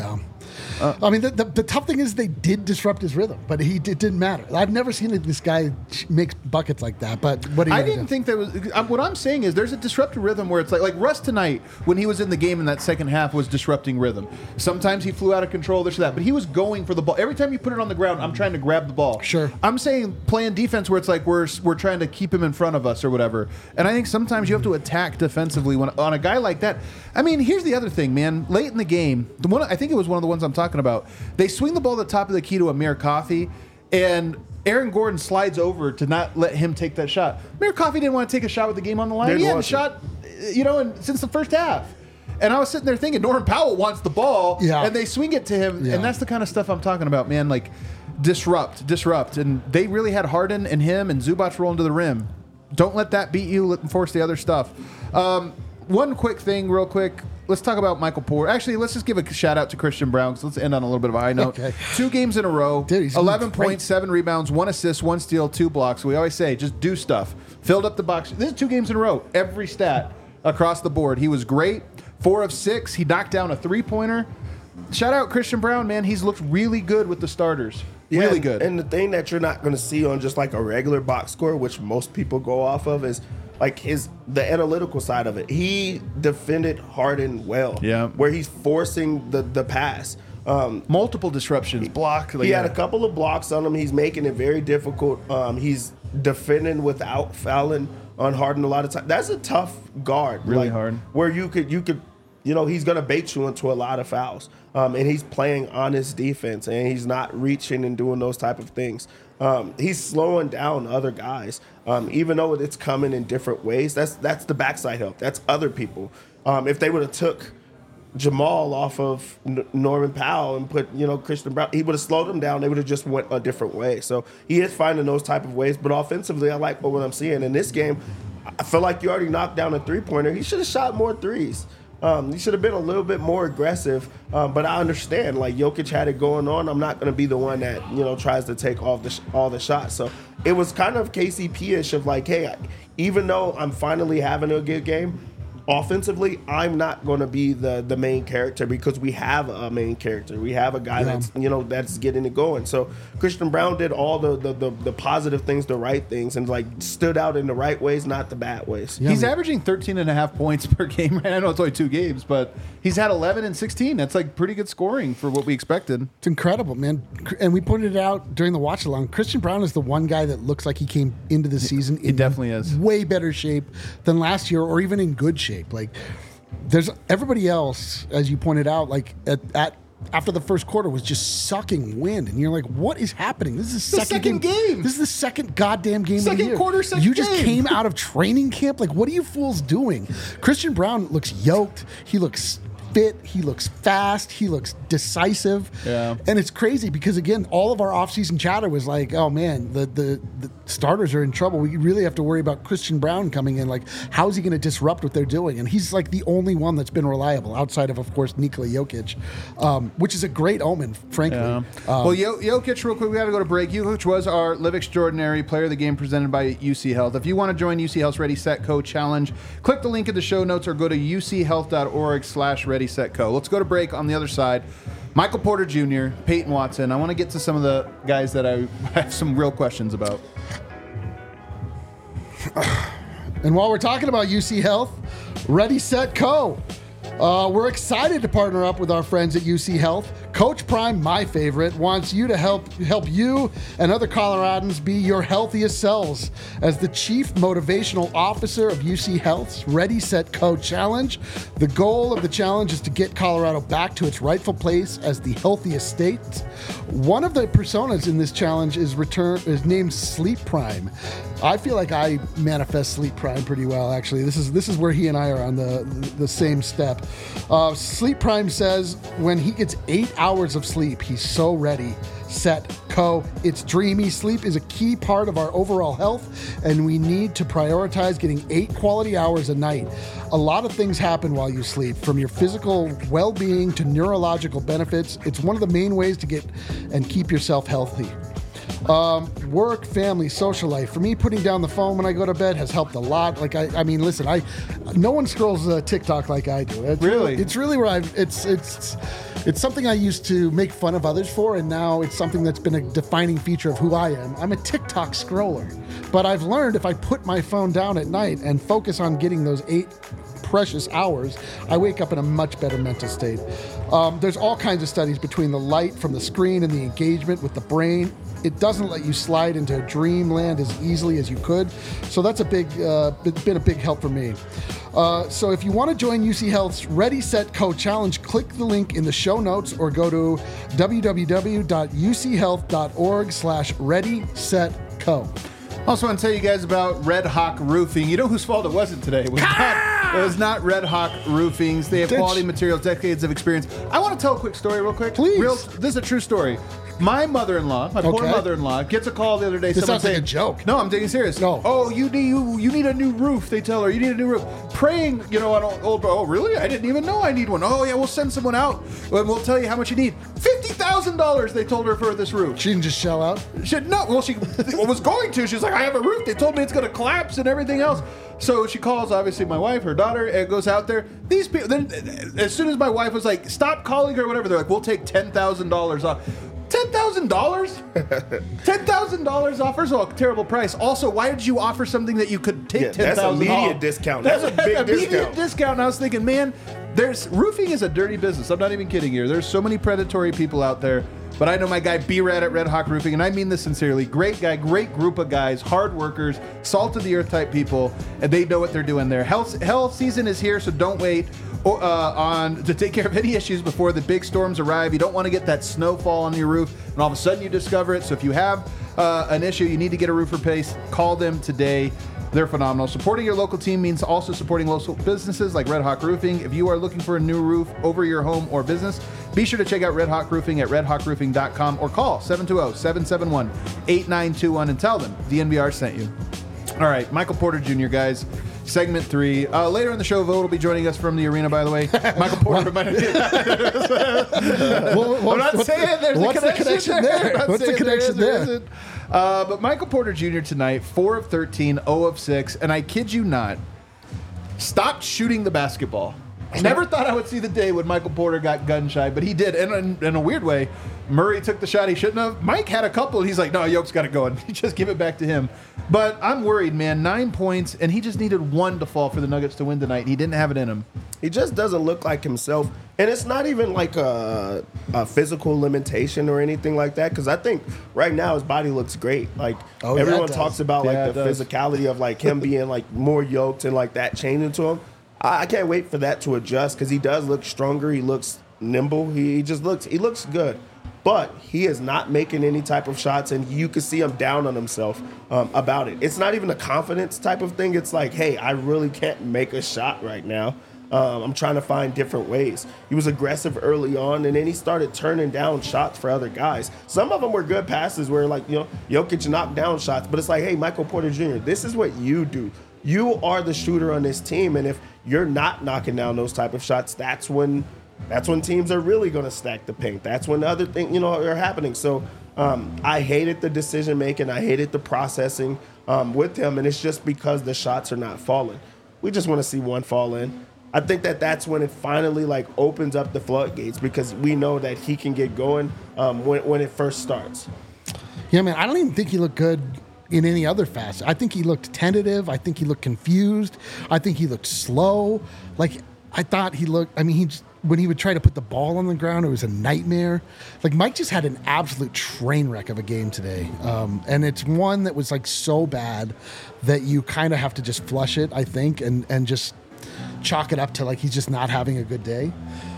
Uh, I mean, the, the, the tough thing is they did disrupt his rhythm, but he it didn't matter. I've never seen this guy make buckets like that. But what do you I gonna didn't do? think that was. uh, What I'm saying is there's a disrupted rhythm where it's like like Russ tonight when he was in the game in that second half was disrupting rhythm. Sometimes he flew out of control, this or that, but he was going for the ball. Every time you put it on the ground, I'm trying to grab the ball. Sure. I'm saying playing defense where it's like we're we're trying to keep him in front of us or whatever. And I think sometimes you have to attack defensively when on a guy like that. I mean, here's the other thing, man. Late in the game, the one I think it was one of the ones I'm talking about. They swing the ball at the top of the key to Amir Coffey, and Aaron Gordon slides over to not let him take that shot. Amir Coffey didn't want to take a shot with the game on the line. Didn't He hadn't want to. shot, you know, in, since the first half. And I was sitting there thinking, Norman Powell wants the ball, Yeah. and they swing it to him, Yeah. and that's the kind of stuff I'm talking about, man. Like, disrupt, disrupt. And they really had Harden and him and Zubac rolling to the rim. Don't let that beat you. Let them force the other stuff. Um, one quick thing, real quick. Let's talk about Michael Porter. Actually, let's just give a shout out to Christian Brown. So let's end on a little bit of a high note. Okay. Two games in a row, Dude, he's eleven great. points, seven rebounds, one assist, one steal, two blocks. We always say, just do stuff. Filled up the box. This is two games in a row. Every stat across the board. He was great. Four of six. He knocked down a three-pointer. Shout out Christian Brown, man. He's looked really good with the starters. really and, good. And the thing that you're not going to see on just like a regular box score, which most people go off of, is like his the analytical side of it. He defended Harden well. Yeah. Where he's forcing the the pass. Um, Multiple disruptions, block. Like, he had yeah. a couple of blocks on him. He's making it very difficult. Um, he's defending without fouling on Harden a lot of times. That's a tough guard. Really like, hard. Where you could you could you know he's gonna bait you into a lot of fouls. Um, and he's playing honest defense, and he's not reaching and doing those type of things. Um, he's slowing down other guys, um, even though it's coming in different ways. That's that's the backside help. That's other people. Um, if they would have took Jamal off of N- Norman Powell and put, you know, Christian Brown, he would have slowed him down. They would have just went a different way. So he is finding those type of ways. But offensively, I like what I'm seeing in this game. I feel like you already knocked down a three-pointer. He should have shot more threes. Um, he should have been a little bit more aggressive. Um, but I understand, like, Jokic had it going on. I'm not going to be the one that, you know, tries to take all the sh- all the shots. So it was kind of K C P-ish of like, hey, I, even though I'm finally having a good game, offensively, I'm not going to be the the main character because we have a main character. We have a guy Yeah. that's, you know, that's getting it going. So Christian Brown did all the the, the the positive things, the right things, and like stood out in the right ways, not the bad ways. Yeah. He's man. averaging thirteen and a half points per game. Right? I know it's only two games, but he's had eleven and sixteen. That's like pretty good scoring for what we expected. It's incredible, man. And we pointed it out during the watch along. Christian Brown is the one guy that looks like he came into the season in definitely is. way better shape than last year, or even in good shape. Like, there's everybody else, as you pointed out, like at, at after the first quarter was just sucking wind, and you're like, "What is happening? This is the The second, second game. This is the second goddamn game of Second the year. quarter, second You just game. came out of training camp. Like, what are you fools doing?" Christian Brown looks yoked. He looks fit. He looks fast. He looks decisive. Yeah. And it's crazy because, again, all of our offseason chatter was like, oh, man, the, the, the starters are in trouble. We really have to worry about Christian Brown coming in. Like, how's he going to disrupt what they're doing? And he's like the only one that's been reliable outside of, of course, Nikola Jokic, um, which is a great omen, frankly. Yeah. Um, well, Yo- Jokic, real quick, we got to go to break. Jokic was our Live Extraordinary Player of the Game presented by U C Health. If you want to join U C Health's Ready, Set, Co challenge, click the link in the show notes or go to uchealth.org slash Ready, Set, Co. Let's go to break. On the other side, Michael Porter Junior, Peyton Watson. I want to get to some of the guys that I have some real questions about. And while we're talking about U C Health, Ready, Set, Co. Uh, we're excited to partner up with our friends at U C Health. Coach Prime, my favorite, wants you to help help you and other Coloradans be your healthiest selves. As the Chief Motivational Officer of U C Health's Ready, Set, Co challenge, the goal of the challenge is to get Colorado back to its rightful place as the healthiest state. One of the personas in this challenge is return is named Sleep Prime. I feel like I manifest Sleep Prime pretty well, actually. This is this is where he and I are on the the same step. Uh, Sleep Prime says when he gets eight hours of sleep, he's so ready, set, co. It's dreamy. Sleep is a key part of our overall health, and we need to prioritize getting eight quality hours a night. A lot of things happen while you sleep, from your physical well-being to neurological benefits. It's one of the main ways to get and keep yourself healthy. Um, work, family, social life. For me, putting down the phone when I go to bed has helped a lot. Like I, I mean, listen, I, no one scrolls uh, TikTok like I do. It's Really? It's really where I've. It's it's it's something I used to make fun of others for, and now it's something that's been a defining feature of who I am. I'm a TikTok scroller, but I've learned if I put my phone down at night and focus on getting those eight precious hours, I wake up in a much better mental state. Um, there's all kinds of studies between the light from the screen and the engagement with the brain. It doesn't let you slide into dreamland as easily as you could. So that's a big, uh, been a big help for me. Uh, so if you want to join U C Health's Ready, Set, Co challenge, click the link in the show notes or go to www.uchealth.org slash ready, set, co. Also want to tell you guys about Red Hawk Roofing. You know whose fault it wasn't today? It was, not, it was not Red Hawk Roofings. They have Ditch. quality materials, decades of experience. I want to tell a quick story real quick. Please. Real, this is a true story. My mother-in-law, my poor Okay. mother-in-law, gets a call the other day. This someone sounds like saying, a joke. No, I'm taking it serious. No. Oh, you need you, you need a new roof. They tell her you need a new roof. Praying, you know, on old. Oh, really? I didn't even know I need one. Oh, yeah, we'll send someone out and we'll tell you how much you need. Fifty thousand dollars. They told her for this roof. She didn't just shell out. She no. Well, she was going to. She's like, I have a roof. They told me it's going to collapse and everything else. So she calls, obviously, my wife, her daughter, and goes out there. These people. Then, as soon as my wife was like, stop calling her, or whatever, they're like, we'll take ten thousand dollars off. Ten thousand dollars? Ten thousand dollars off? First of all, terrible price. Also, why did you offer something that you could take Yeah, ten that's thousand immediate off? discount. That's a big immediate discount. discount. And I was thinking, man, there's roofing is a dirty business. I'm not even kidding you. There's so many predatory people out there. But I know my guy B-Rad at Red Hawk Roofing, and I mean this sincerely. Great guy, great group of guys, hard workers, salt of the earth type people, and they know what they're doing there. Hell, hell season is here, so don't wait uh, on to take care of any issues before the big storms arrive. You don't want to get that snowfall on your roof, and all of a sudden you discover it. So if you have uh, an issue, you need to get a roof replaced, call them today. They're phenomenal. Supporting your local team means also supporting local businesses like Red Hawk Roofing. If you are looking for a new roof over your home or business, be sure to check out Red Hawk Roofing at red hawk roofing dot com or call seven two zero, seven seven one, eight nine two one and tell them D N V R sent you. All right, Michael Porter Junior, guys. Segment three. Uh, later in the show, Vogt will be joining us from the arena, by the way. Michael Porter. Well, I'm not what's saying there's what's a connection, the connection there? I'm not What's the saying connection there? is or there? isn't. Uh, but Michael Porter Junior tonight, four of thirteen, zero of six, and I kid you not, stopped shooting the basketball. I never thought I would see the day when Michael Porter got gun shy, but he did. And in, in a weird way, Murray took the shot he shouldn't have. Mike had a couple, and he's like, no, Yoke's got it going. Just give it back to him. But I'm worried, man. Nine points, and he just needed one to fall for the Nuggets to win tonight. He didn't have it in him. He just doesn't look like himself. And it's not even like a, a physical limitation or anything like that. Because I think right now his body looks great. Like Oh, yeah, everyone it does. talks about like Yeah, the it does. physicality of like him being like more yoked and like that changing to him. I, I can't wait for that to adjust because he does look stronger. He looks nimble. He, he just looks he looks good. But he is not making any type of shots, and you can see him down on himself um, about it. It's not even a confidence type of thing. It's like, hey, I really can't make a shot right now. Um, I'm trying to find different ways. He was aggressive early on, and then he started turning down shots for other guys. Some of them were good passes where, like, you know, Jokic knocked down shots. But it's like, hey, Michael Porter Junior, this is what you do. You are the shooter on this team, and if you're not knocking down those type of shots, that's when that's when teams are really going to stack the paint. That's when other things, you know, are happening. So um, I hated the decision making. I hated the processing um, with him, and it's just because the shots are not falling. We just want to see one fall in. I think that that's when it finally like opens up the floodgates because we know that he can get going um, when when it first starts. Yeah, man, I don't even think he looked good in any other facet. I think he looked tentative. I think he looked confused. I think he looked slow. Like, I thought he looked, I mean, he just, when he would try to put the ball on the ground, it was a nightmare. Like, Mike just had an absolute train wreck of a game today. Um, and it's one that was like so bad that you kind of have to just flush it, I think, and, and just chalk it up to like he's just not having a good day.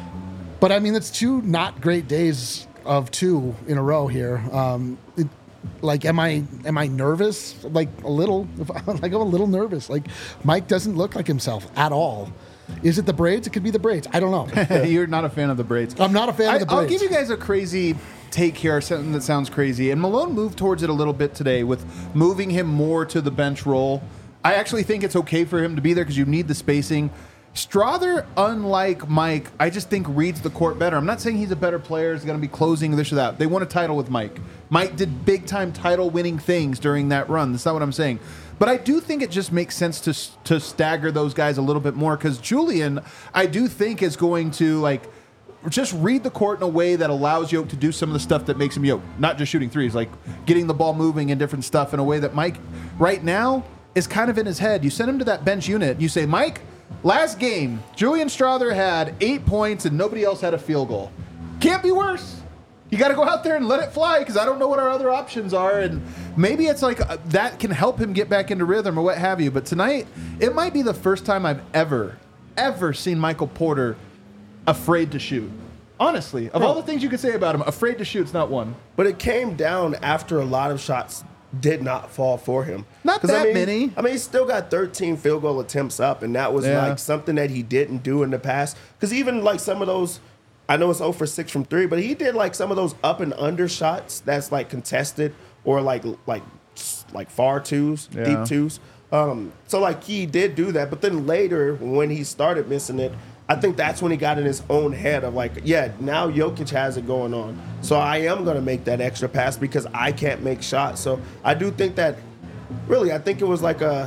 But I mean, it's two not great days of two in a row here. Um, it, like, am I am I nervous? Like a little, like I'm a little nervous. Like Mike doesn't look like himself at all. Is it the braids? It could be the braids. I don't know. You're not a fan of the braids. I'm not a fan I, of the braids. I'll give you guys a crazy take here, something that sounds crazy. And Malone moved towards it a little bit today with moving him more to the bench role. I actually think it's okay for him to be there because you need the spacing. Strother, unlike Mike, I just think reads the court better. I'm not saying he's a better player, he's going to be closing this or that. They won a title with Mike. Mike did big-time title-winning things during that run. That's not what I'm saying. But I do think it just makes sense to to stagger those guys a little bit more because Julian, I do think, is going to, like, just read the court in a way that allows Yoke to do some of the stuff that makes him Yoke. Not just shooting threes, like getting the ball moving and different stuff in a way that Mike, right now, is kind of in his head. You send him to that bench unit. You say, Mike, last game, Julian Strother had eight points and nobody else had a field goal. Can't be worse. You got to go out there and let it fly because I don't know what our other options are. And maybe it's like uh, that can help him get back into rhythm or what have you. But tonight, it might be the first time I've ever, ever seen Michael Porter afraid to shoot. Honestly, of all the things you could say about him, afraid to shoot's not one. But it came down after a lot of shots did not fall for him. Not 'Cause, that I mean, many. I mean, he still got thirteen field goal attempts up, and that was Yeah. like something that he didn't do in the past. Because even like some of those, I know it's zero for six from three, but he did like some of those up and under shots that's like contested or like like like far twos, Yeah. deep twos. Um, so like he did do that, but then later when he started missing it, I think that's when he got in his own head of like, yeah, now Jokic has it going on. So I am going to make that extra pass because I can't make shots. So I do think that, really, I think it was like a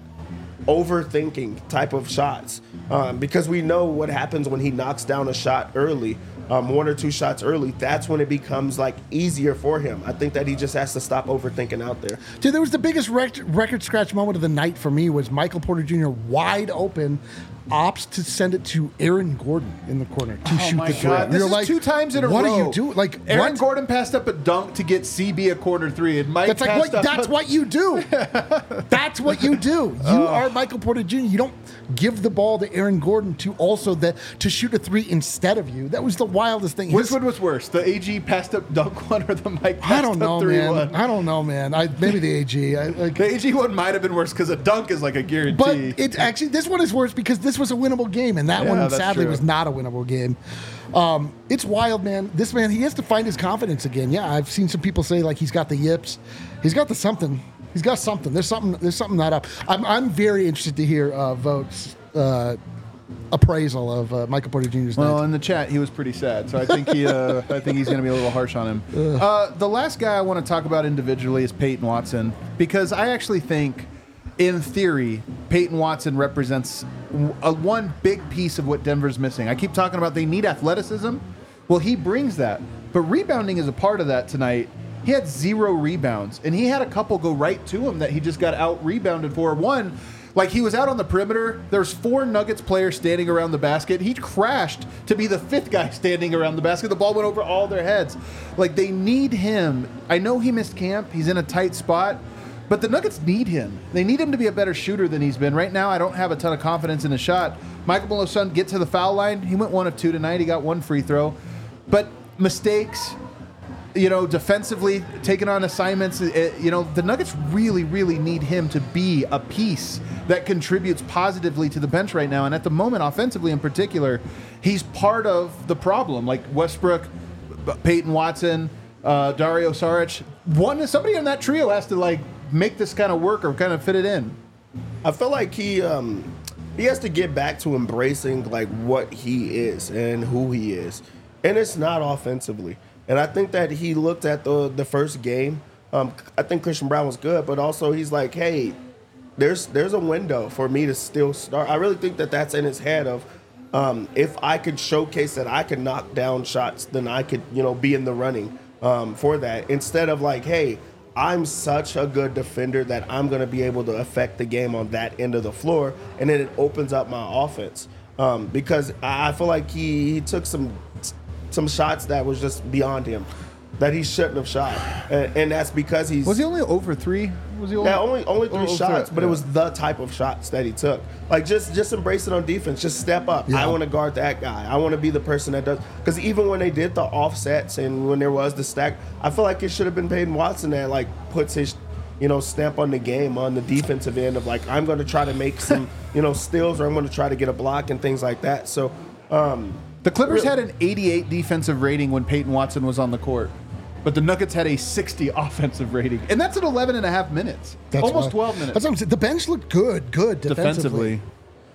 overthinking type of shots um, because we know what happens when he knocks down a shot early, um, one or two shots early. That's when it becomes like easier for him. I think that he just has to stop overthinking out there. Dude, there was the biggest rec- record scratch moment of the night for me was Michael Porter Junior wide open, opts to send it to Aaron Gordon in the corner to Oh shoot my the three. God! This You're is like, two times in a what row. are you doing? Like, Aaron what? Gordon passed up a dunk to get C B a corner three, and Mike That's like passed what. up That's a- what you do. That's what you do. You are Michael Porter Junior You don't give the ball to Aaron Gordon to also that to shoot a three instead of you. That was the wildest thing. Which His- one was worse, the A G passed up dunk one or the Mike passed I don't up know, three man. one? I don't know, man. I maybe the A G. I, like, The A G one might have been worse because a dunk is like a But guarantee. it's actually this one is worse because this was a winnable game, and that Yeah, one that's sadly true. was not a winnable game. Um, it's wild, man. This man, he has to find his confidence again. Yeah, I've seen some people say like he's got the yips, he's got the something, he's got something. There's something. There's something not up. I'm I'm very interested to hear uh, Vote's uh, appraisal of uh, Michael Porter Junior's Well, night. in the chat, he was pretty sad, so I think he, uh, I think he's going to be a little harsh on him. Uh, the last guy I want to talk about individually is Peyton Watson because I actually think, in theory, Peyton Watson represents a one big piece of what Denver's missing. I keep talking about they need athleticism. Well, he brings that, but rebounding is a part of that tonight. He had zero rebounds, and he had a couple go right to him that he just got out rebounded for. One, like he was out on the perimeter. There's four Nuggets players standing around the basket. He crashed to be the fifth guy standing around the basket. The ball went over all their heads. Like they need him. I know he missed camp. He's in a tight spot. But the Nuggets need him. They need him to be a better shooter than he's been. Right now, I don't have a ton of confidence in his shot. Michael Malone's son get to the foul line. He went one of two tonight. He got one free throw. But mistakes, you know, defensively, taking on assignments, it, you know, the Nuggets really, really need him to be a piece that contributes positively to the bench right now. And at the moment, offensively in particular, he's part of the problem. Like Westbrook, Peyton Watson, uh, Dario Saric. One, somebody in that trio has to, like, make this kind of work or kind of fit it in. I feel like he um, he has to get back to embracing like what he is and who he is, and it's not offensively. And I think that he looked at the the first game. Um, I think Christian Brown was good, but also he's like, hey, there's there's a window for me to still start. I really think that that's in his head of um, if I could showcase that I could knock down shots, then I could you know be in the running um, for that instead of like, hey, I'm such a good defender that I'm going to be able to affect the game on that end of the floor, and then it opens up my offense um, because I feel like he, he took some some shots that was just beyond him that he shouldn't have shot, and, and that's because he's Was he only over three? Was he only, yeah, only only three over shots, three, but yeah. it was the type of shots that he took. Like just just embrace it on defense. Just step up. Yeah. I want to guard that guy. I want to be the person that does. Because even when they did the offsets and when there was the stack, I feel like it should have been Peyton Watson that like puts his you know stamp on the game on the defensive end of like I'm going to try to make some you know steals or I'm going to try to get a block and things like that. So um, The Clippers Really? had an eighty-eight defensive rating when Peyton Watson was on the court. But the Nuggets had a sixty offensive rating. And that's at eleven and a half minutes. That's Almost wild. twelve minutes. That's what I'm saying. The bench looked good, good defensively. defensively.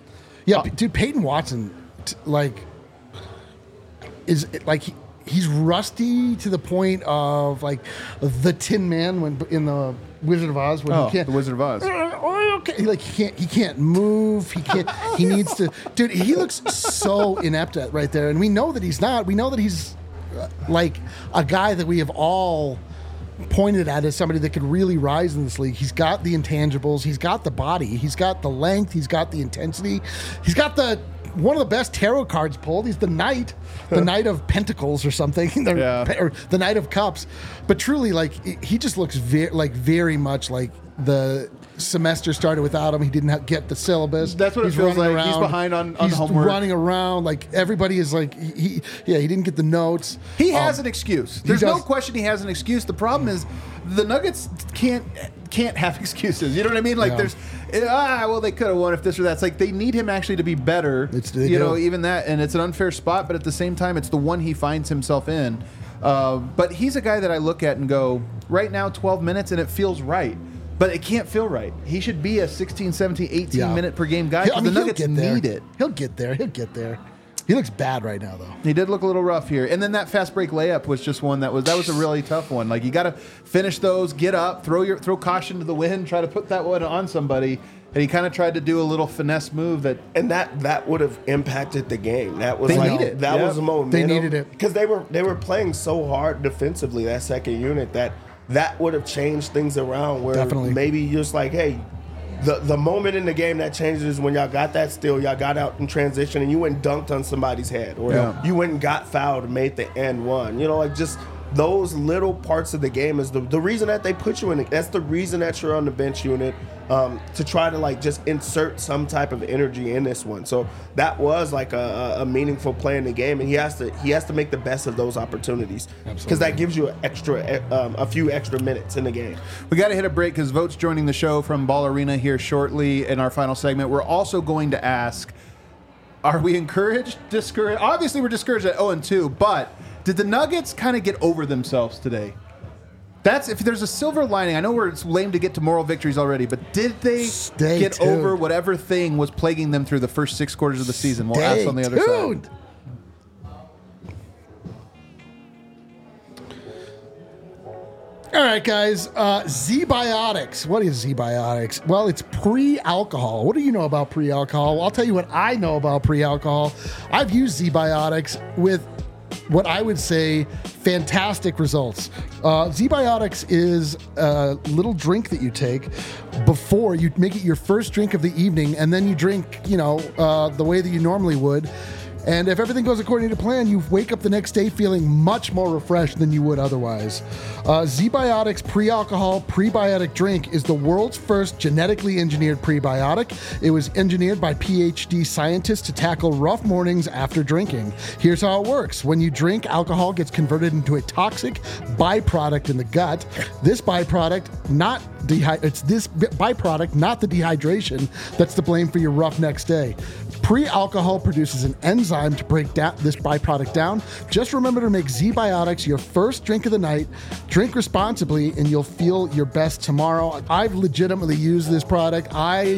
Yeah, dude, Peyton Watson, t- like, is like he, he's rusty to the point of like the Tin Man when in the Wizard of Oz when Oh, he can't. the Wizard of Oz. Oh, okay. Like he can't, he can't move. He can't. He needs to. Dude, he looks so inept at right there, and we know that he's not. We know that he's uh, like a guy that we have all pointed at as somebody that could really rise in this league. He's got the intangibles. He's got the body. He's got the length. He's got the intensity. He's got the one of the best tarot cards pulled. He's the Knight, the Knight of Pentacles or something, the, Yeah. or the Knight of Cups. But truly, like he just looks very, like very much like the semester started without him. He didn't have, get the syllabus. That's what it He's feels running like. He's behind on- on He's homework. running around like everybody is like he, he yeah he didn't get the notes. He has Um, an excuse. There's no does- question he has an excuse. The problem is the Nuggets can't can't have excuses. You know what I mean? Like Yeah. there's ah well they could have won if this or that. It's like they need him actually to be better. It's- they you do. know even that, and it's an unfair spot, but at the same time it's the one he finds himself in. Uh, but he's a guy that I look at and go, right now twelve minutes and it feels right. But it can't feel right. He should be a sixteen, seventeen, eighteen Yeah. minute per game guy. He'll- 'Cause I mean, the he'll Nuggets get there. need it. He'll get there. He'll get there. He looks bad right now, though. He did look a little rough here, and then that fast break layup was just one that was that was a really tough one. Like you got to finish those, get up, throw your throw caution to the wind, try to put that one on somebody, and he kind of tried to do a little finesse move that And that that would have impacted the game. That was They like need it. that Yeah. was the momentum. They needed it. because they were they were playing so hard defensively, that second unit, that that would have changed things around. Where Definitely. maybe you're just like, hey, the the moment in the game that changes is when y'all got that steal, y'all got out in transition, and you went and dunked on somebody's head, or Yeah. you went and got fouled and made the end one. You know, like just those little parts of the game is the, the reason that they put you in it. That's the reason that you're on the bench unit, um, to try to like just insert some type of energy in this one. So that was like a, a meaningful play in the game, and he has to he has to make the best of those opportunities because that gives you an extra um, a few extra minutes in the game. we got to hit a break because Vote's joining the show from Ball Arena here shortly in our final segment. We're also going to ask, are we encouraged, discouraged? Obviously, we're discouraged at oh and two, but did the Nuggets kind of get over themselves today? That's if there's a silver lining. I know we're it's lame to get to moral victories already, but did they Stay get tuned. over whatever thing was plaguing them through the first six quarters of the season? We'll Stay ask on the other tuned. side. All right, guys. Uh, Z-Biotics. What is Z-Biotics? Well, it's pre-alcohol. What do you know about pre-alcohol? Well, I'll tell you what I know about pre-alcohol. I've used Z-Biotics with what I would say fantastic results. Uh, Z-Biotics is a little drink that you take before you make it your first drink of the evening, and then you drink, you know, uh, the way that you normally would. And if everything goes according to plan, you wake up the next day feeling much more refreshed than you would otherwise. Uh, Z-Biotics pre-alcohol prebiotic drink is the world's first genetically engineered prebiotic. It was engineered by PhD scientists to tackle rough mornings after drinking. Here's how it works. When you drink, alcohol gets converted into a toxic byproduct in the gut. This byproduct, not dehy- it's this byproduct, not the dehydration, that's to blame for your rough next day. Pre-alcohol produces an enzyme to break down this byproduct down. Just remember to make Z-Biotics your first drink of the night. Drink responsibly, and you'll feel your best tomorrow. I've legitimately used this product. I,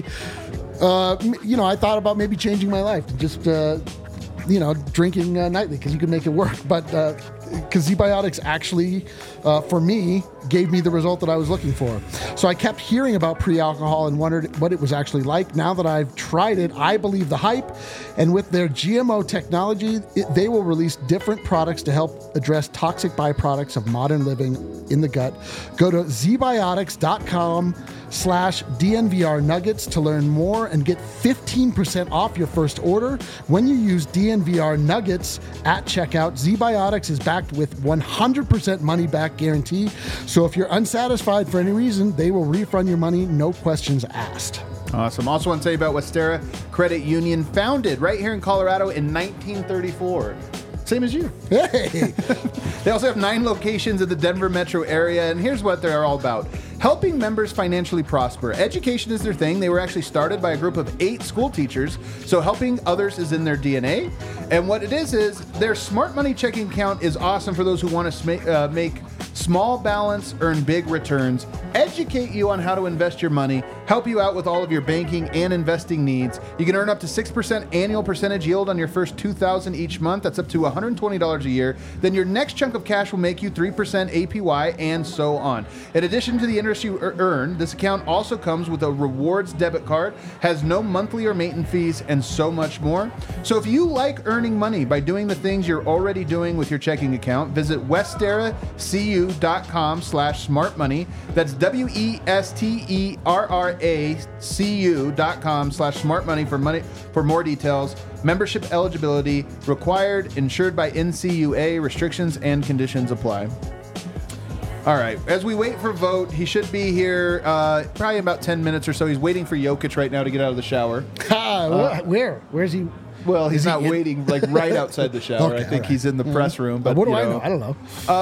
uh, m- you know, I thought about maybe changing my life to just, uh, you know, drinking uh, nightly because you can make it work. But because Z-Biotics actually, uh, for me, gave me the result that I was looking for. So I kept hearing about pre-alcohol and wondered what it was actually like. Now that I've tried it, I believe the hype. And with their G M O technology, it, they will release different products to help address toxic byproducts of modern living in the gut. Go to zbiotics.com slash DNVR Nuggets to learn more and get fifteen percent off your first order when you use D N V R Nuggets at checkout. Z-Biotics is backed with one hundred percent money back guarantee. So if you're unsatisfied for any reason, they will refund your money, no questions asked. Awesome. Also want to tell you about Westera Credit Union, founded right here in Colorado in nineteen thirty-four. Same as you. Hey, They also have nine locations in the Denver metro area, and here's what they're all about. Helping members financially prosper. Education is their thing. They were actually started by a group of eight school teachers, so helping others is in their D N A. And what it is is their smart money checking account is awesome for those who want to sma- uh, make small balance, earn big returns, educate you on how to invest your money, help you out with all of your banking and investing needs. You can earn up to six percent annual percentage yield on your first two thousand dollars each month. That's up to one hundred twenty dollars a year. Then your next chunk of cash will make you three percent A P Y and so on. In addition to the interest you earn, this account also comes with a rewards debit card, has no monthly or maintenance fees, and so much more. So if you like earning money by doing the things you're already doing with your checking account, visit westeracu.com slash smart money. That's W E S T E R R A C U dot com slash smart money for money for more details. Membership eligibility required, insured by N C U A. Restrictions and conditions apply. All right, as we wait for vote, he should be here uh, probably in about ten minutes or so. He's waiting for Jokic right now to get out of the shower. uh, where? Where's he? Well, he's Is he not in- waiting like right outside the shower. Okay, I think all right. he's in the press room. But what do you I know, know? I don't know.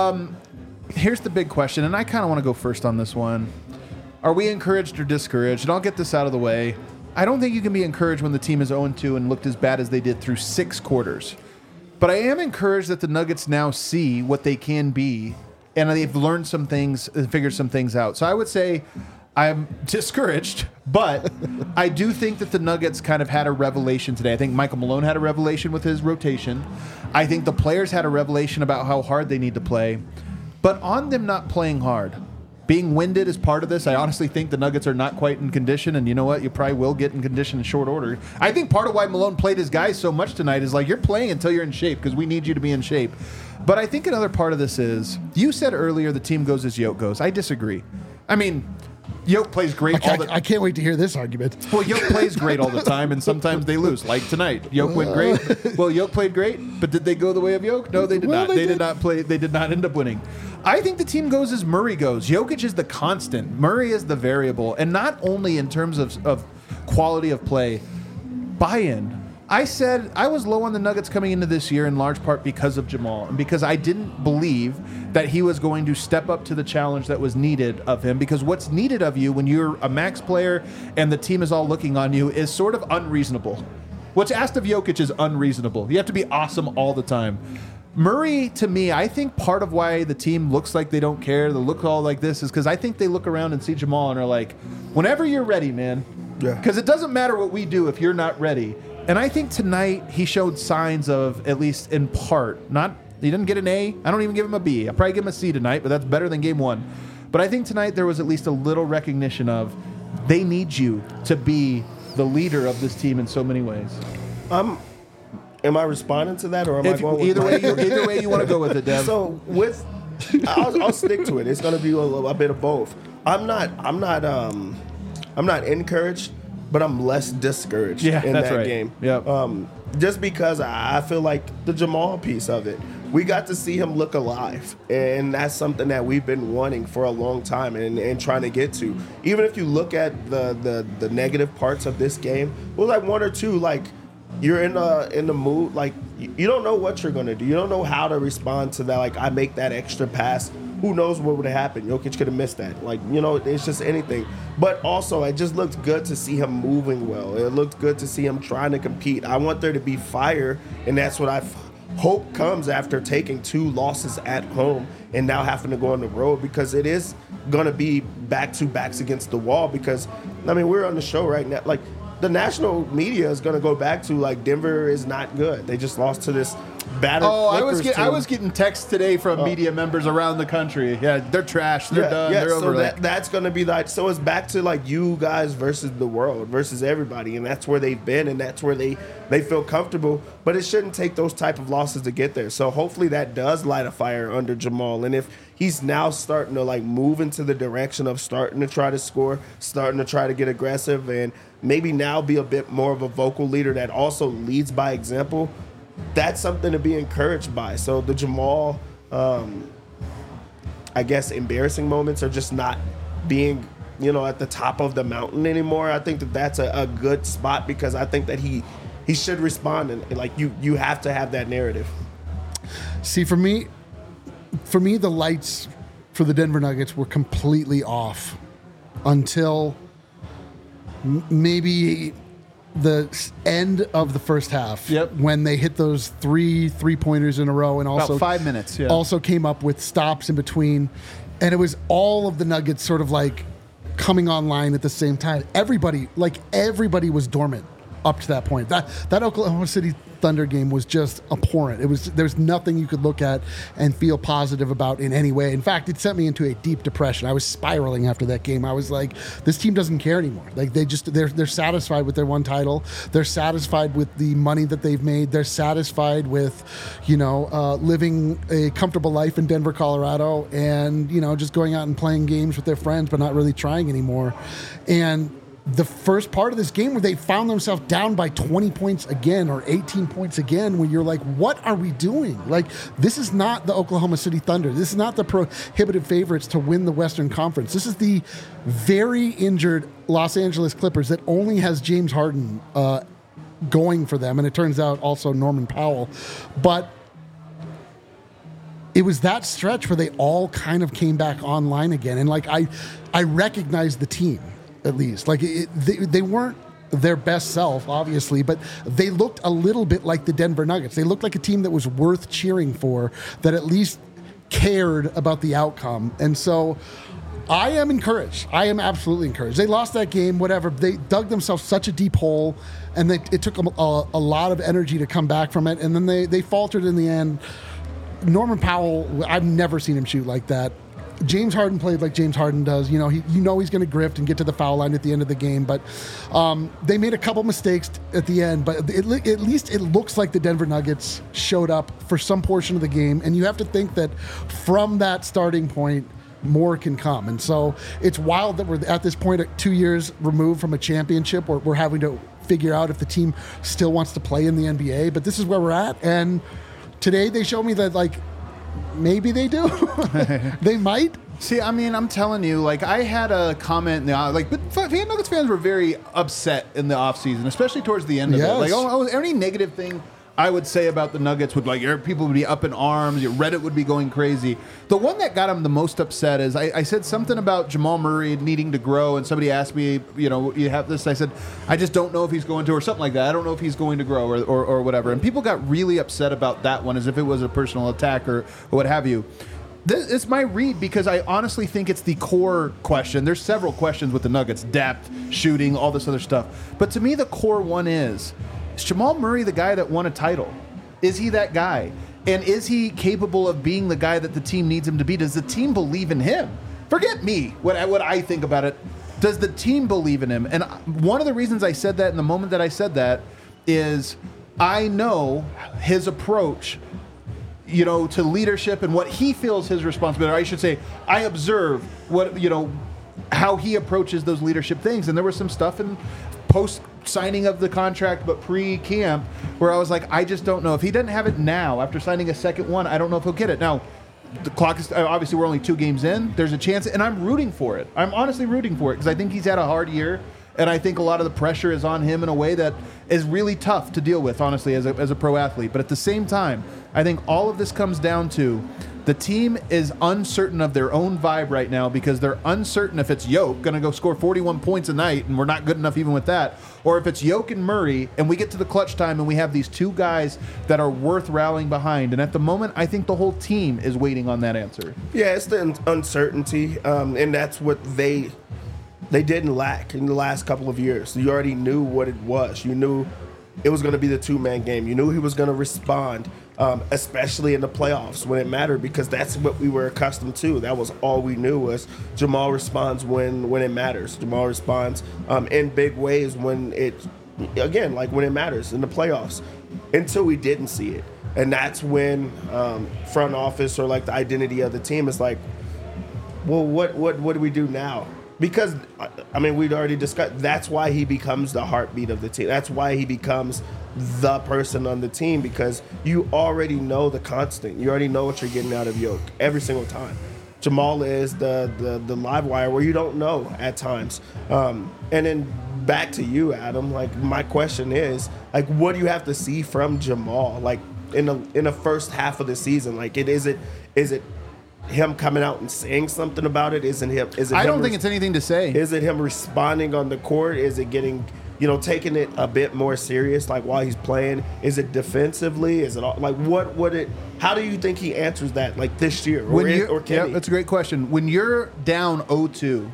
Here's the big question, and I kind of want to go first on this one. Are we encouraged or discouraged? And I'll get this out of the way. I don't think you can be encouraged when the team is oh and two and looked as bad as they did through six quarters. But I am encouraged that the Nuggets now see what they can be, and they've learned some things and figured some things out. So I would say I'm discouraged, but I do think that the Nuggets kind of had a revelation today. I think Michael Malone had a revelation with his rotation. I think the players had a revelation about how hard they need to play. But on them not playing hard, being winded is part of this. I honestly think the Nuggets are not quite in condition, and you know what? You probably will get in condition in short order. I think part of why Malone played his guys so much tonight is like, you're playing until you're in shape because we need you to be in shape. But I think another part of this is, you said earlier the team goes as Yoke goes. I disagree. I mean, Yoke plays great I, all the I can't wait to hear this argument. Well, Yoke plays great all the time, and sometimes they lose. Like tonight, Yoke went great. Well, Yoke played great, but did they go the way of Yoke? No, they did Well, not. they They, did. did. not play. They did not end up winning. I think the team goes as Murray goes. Jokic is the constant. Murray is the variable, and not only in terms of, of quality of play, buy-in. I said I was low on the Nuggets coming into this year in large part because of Jamal and because I didn't believe that he was going to step up to the challenge that was needed of him, because what's needed of you when you're a max player and the team is all looking on you is sort of unreasonable. What's asked of Jokic is unreasonable. You have to be awesome all the time. Murray, to me, I think part of why the team looks like they don't care, they look all like this, is because I think they look around and see Jamal and are like, whenever you're ready, man. Yeah. Because it doesn't matter what we do if you're not ready. And I think tonight he showed signs of, at least in part, not he didn't get an A. I don't even give him a B. I'll probably give him a C tonight, but that's better than game one. But I think tonight there was at least a little recognition of they need you to be the leader of this team in so many ways. Um, am I responding to that, or am If, I going with either my- way, you, either way you want to go with it, Dev. So with, I'll, I'll stick to it. It's going to be a, little- a bit of both. I'm not. I'm not. Um, I'm not encouraged, but I'm less discouraged Yeah, in that's that right. game. Yep. Um, just because I I feel like the Jamal piece of it, we got to see him look alive, and that's something that we've been wanting for a long time and, and trying to get to. Even if you look at the the the negative parts of this game, well, like one or two, like. You're in the in the mood, like you you don't know what you're gonna do. You don't know how to respond to that. Like I make that extra pass, who knows what would have happened? Jokic could have missed that. Like you know, it's just anything. But also, it just looked good to see him moving well. It looked good to see him trying to compete. I want there to be fire, and that's what I f- hope comes after taking two losses at home and now having to go on the road, because it is gonna be back to backs against the wall. Because I mean, we're on the show right now, like. The national media is going to go back to like Denver is not good. They just lost to this battered. Oh, I was Clippers get, I team. was getting texts today from media members around the country. Yeah, they're trash. They're yeah, done. yeah. They're So over. that, that's going to be like. So it's back to like you guys versus the world versus everybody, and that's where they've been, and that's where they they feel comfortable. But it shouldn't take those type of losses to get there. So hopefully that does light a fire under Jamal, and if he's now starting to like move into the direction of starting to try to score, starting to try to get aggressive, and maybe now be a bit more of a vocal leader that also leads by example, that's something to be encouraged by. So the Jamal, um, I guess, embarrassing moments are just not being, you know, at the top of the mountain anymore. I think that that's a, a good spot, because I think that he he should respond, and like you you have to have that narrative. See, for me, for me, the lights for the Denver Nuggets were completely off until m- maybe the s- end of the first half. Yep. When they hit those three three pointers in a row, and also five minutes, yeah. Also came up with stops in between, and it was all of the Nuggets sort of like coming online at the same time. Everybody, like everybody was dormant up to that point. That that Oklahoma City Thunder game was just abhorrent. It was there's nothing you could look at and feel positive about in any way. In fact, it sent me into a deep depression. I was spiraling after that game. I was like, this team doesn't care anymore. Like they just they're they're satisfied with their one title. They're satisfied with the money that they've made. They're satisfied with, you know, uh, living a comfortable life in Denver, Colorado, and you know, just going out and playing games with their friends, but not really trying anymore. And the first part of this game where they found themselves down by twenty points again or eighteen points again, where you're like, what are we doing? Like, this is not the Oklahoma City Thunder. This is not the prohibitive favorites to win the Western Conference. This is the very injured Los Angeles Clippers that only has James Harden uh, going for them. And it turns out also Norman Powell. But it was that stretch where they all kind of came back online again. And like, I, I recognized the team. At least, like it, they, they weren't their best self, obviously, but they looked a little bit like the Denver Nuggets. They looked like a team that was worth cheering for, that at least cared about the outcome. And so I am encouraged. I am absolutely encouraged. They lost that game, whatever. They dug themselves such a deep hole, and they, it took them a, a lot of energy to come back from it. And then they, they faltered in the end. Norman Powell, I've never seen him shoot like that. James Harden played like James Harden does. You know, he, you know he's going to grift and get to the foul line at the end of the game. But um, they made a couple mistakes at the end. But it, at least it looks like the Denver Nuggets showed up for some portion of the game. And you have to think that from that starting point, more can come. And so it's wild that we're at this point, two years removed from a championship, where we're having to figure out if the team still wants to play in the N B A. But this is where we're at. And today they showed me that, like, maybe they do. They might. See, I mean, I'm telling you, like, I had a comment in the like, but fan Nuggets fans were very upset in the offseason, especially towards the end of Yes. it. Like, oh, oh, any negative thing I would say about the Nuggets would, like, people would be up in arms. Reddit would be going crazy. The one that got him the most upset is I, I said something about Jamal Murray needing to grow, and somebody asked me, you know, you have this. I said, I just don't know if he's going to, or something like that. I don't know if he's going to grow, or, or, or whatever. And people got really upset about that one, as if it was a personal attack or, or what have you. This is my read, because I honestly think it's the core question. There's several questions with the Nuggets: depth, shooting, all this other stuff. But to me, the core one is, is Jamal Murray the guy that won a title? Is he that guy? And is he capable of being the guy that the team needs him to be? Does the team believe in him? Forget me, what I, what I think about it. Does the team believe in him? And one of the reasons I said that in the moment that I said that is I know his approach, you know, to leadership and what he feels his responsibility. Or I should say, I observe what, you know, how he approaches those leadership things. And there was some stuff in post signing of the contract, but pre-camp, where I was like, I just don't know. If he doesn't have it now, after signing a second one, I don't know if he'll get it. Now, the clock is, obviously we're only two games in. There's a chance, and I'm rooting for it. I'm honestly rooting for it, because I think he's had a hard year, and I think a lot of the pressure is on him in a way that is really tough to deal with, honestly, as a, as a pro athlete. But at the same time, I think all of this comes down to the team is uncertain of their own vibe right now, because they're uncertain if it's Yoke going to go score forty-one points a night, and we're not good enough even with that, or if it's Yoke and Murray, and we get to the clutch time and we have these two guys that are worth rallying behind. And at the moment, I think the whole team is waiting on that answer. Yeah, it's the un- uncertainty, um, and that's what they they didn't lack in the last couple of years. You already knew what it was. You knew it was going to be the two-man game. You knew he was going to respond, um, especially in the playoffs when it mattered, because that's what we were accustomed to. That was all we knew, was Jamal responds when, when it matters. Jamal responds um, in big ways when it, again, like when it matters in the playoffs, until we didn't see it. And that's when um, front office, or like the identity of the team, is like, well, what what what do we do now? Because, I mean, we'd already discussed, that's why he becomes the heartbeat of the team. That's why he becomes the person on the team, because you already know the constant. You already know what you're getting out of Yoke every single time. Jamal is the the, the live wire where you don't know at times. Um, and then back to you, Adam, like, my question is, like, what do you have to see from Jamal, like, in the in the first half of the season? Like, it is it is it him coming out and saying something about it? Isn't him? Is it? I him don't think res- it's anything to say. Is it him responding on the court? Is it getting, you know, taking it a bit more serious, like while he's playing? Is it defensively? Is it all, like what? What it? How do you think he answers that, like this year, or, When in, you, or can yeah, he? that's a great question. When you're down oh two,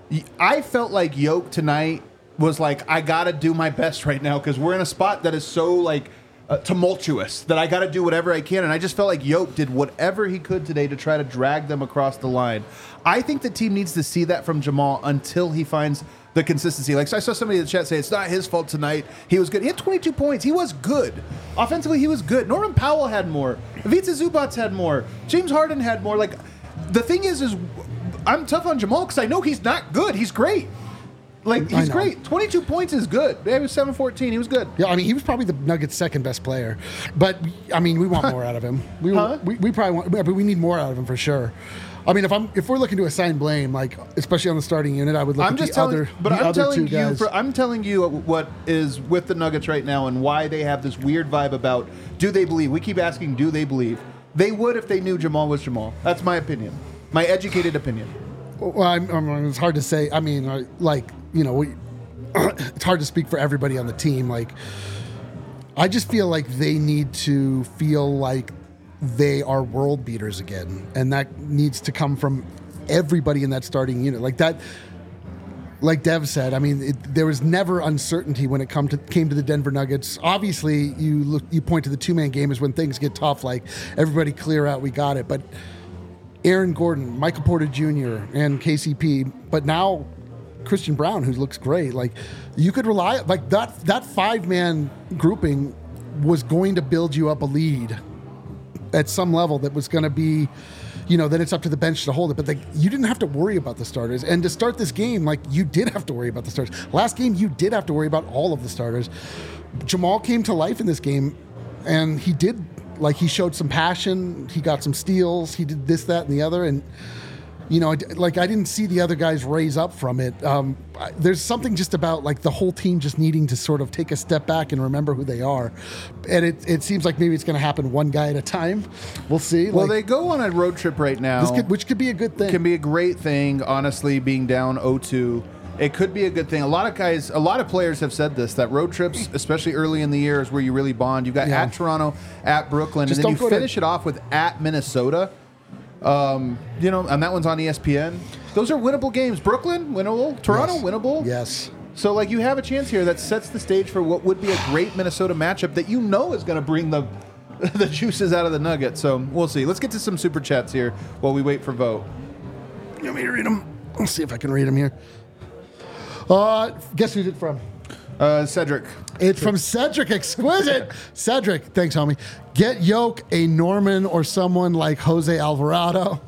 I felt like Yoke tonight was like, I got to do my best right now because we're in a spot that is so like uh, tumultuous that I got to do whatever I can. And I just felt like Yoke did whatever he could today to try to drag them across the line. I think the team needs to see that from Jamal until he finds the consistency. Like, so I saw somebody in the chat say it's not his fault tonight. He was good. He had twenty-two points. He was good. Offensively, he was good. Norman Powell had more. Ivica Zubats had more. James Harden had more. Like, the thing is, is I'm tough on Jamal because I know he's not good. He's great. Like, he's great. twenty-two points is good. He was seven fourteen. He was good. Yeah, I mean, he was probably the Nuggets' second best player. But, I mean, we want more out of him. We, Huh? we, we probably want, but we need more out of him for sure. I mean, if I'm if we're looking to assign blame, like especially on the starting unit, I would look I'm at just the telling, other, but the I'm other telling two you, guys. for, I'm telling you what is with the Nuggets right now and why they have this weird vibe about do they believe? We keep asking, do they believe? They would if they knew Jamal was Jamal. That's my opinion, my educated opinion. Well, I'm, I'm, it's hard to say. I mean, uh, like you know, we, it's hard to speak for everybody on the team. Like, I just feel like they need to feel like they are world beaters again, and that needs to come from everybody in that starting unit. Like that, like Dev said, I mean, it, there was never uncertainty when it come to came to the Denver Nuggets. Obviously, you look, you point to the two man game is when things get tough. Like everybody clear out, we got it. But Aaron Gordon, Michael Porter Junior, and K C P, but now Christian Brown, who looks great. Like you could rely like that. That five man grouping was going to build you up a lead at some level that was going to be. You know, then it's up to the bench to hold it. But like, you didn't have to worry about the starters. And to start this game, like you did have to worry about the starters. Last game, you did have to worry about all of the starters. Jamal came to life in this game, and he did, like he showed some passion. He got some steals. He did this, that, and the other. And, you know, like I didn't see the other guys raise up from it. Um, there's something just about like the whole team just needing to sort of take a step back and remember who they are. And it, it seems like maybe it's going to happen one guy at a time. We'll see. Well, like, they go on a road trip right now. This could, which could be a good thing. Can be a great thing, honestly, being down oh two. It could be a good thing. A lot of guys, a lot of players have said this, that road trips, especially early in the year, is where you really bond. You've got Yeah. at Toronto, at Brooklyn, Just and then don't you go finish to- it off with at Minnesota. Um, you know, and that one's on E S P N. Those are winnable games. Brooklyn, winnable. Toronto, Yes. winnable. Yes. So, like, you have a chance here that sets the stage for what would be a great Minnesota matchup that you know is going to bring the the juices out of the Nuggets. So, we'll see. Let's get to some super chats here while we wait for vote. You want me to read them? Let's see if I can read them here. Uh, guess who's it from? Uh, Cedric. It's from Cedric Exquisite. Cedric, thanks, homie. Get Yoke a Norman or someone like Jose Alvarado.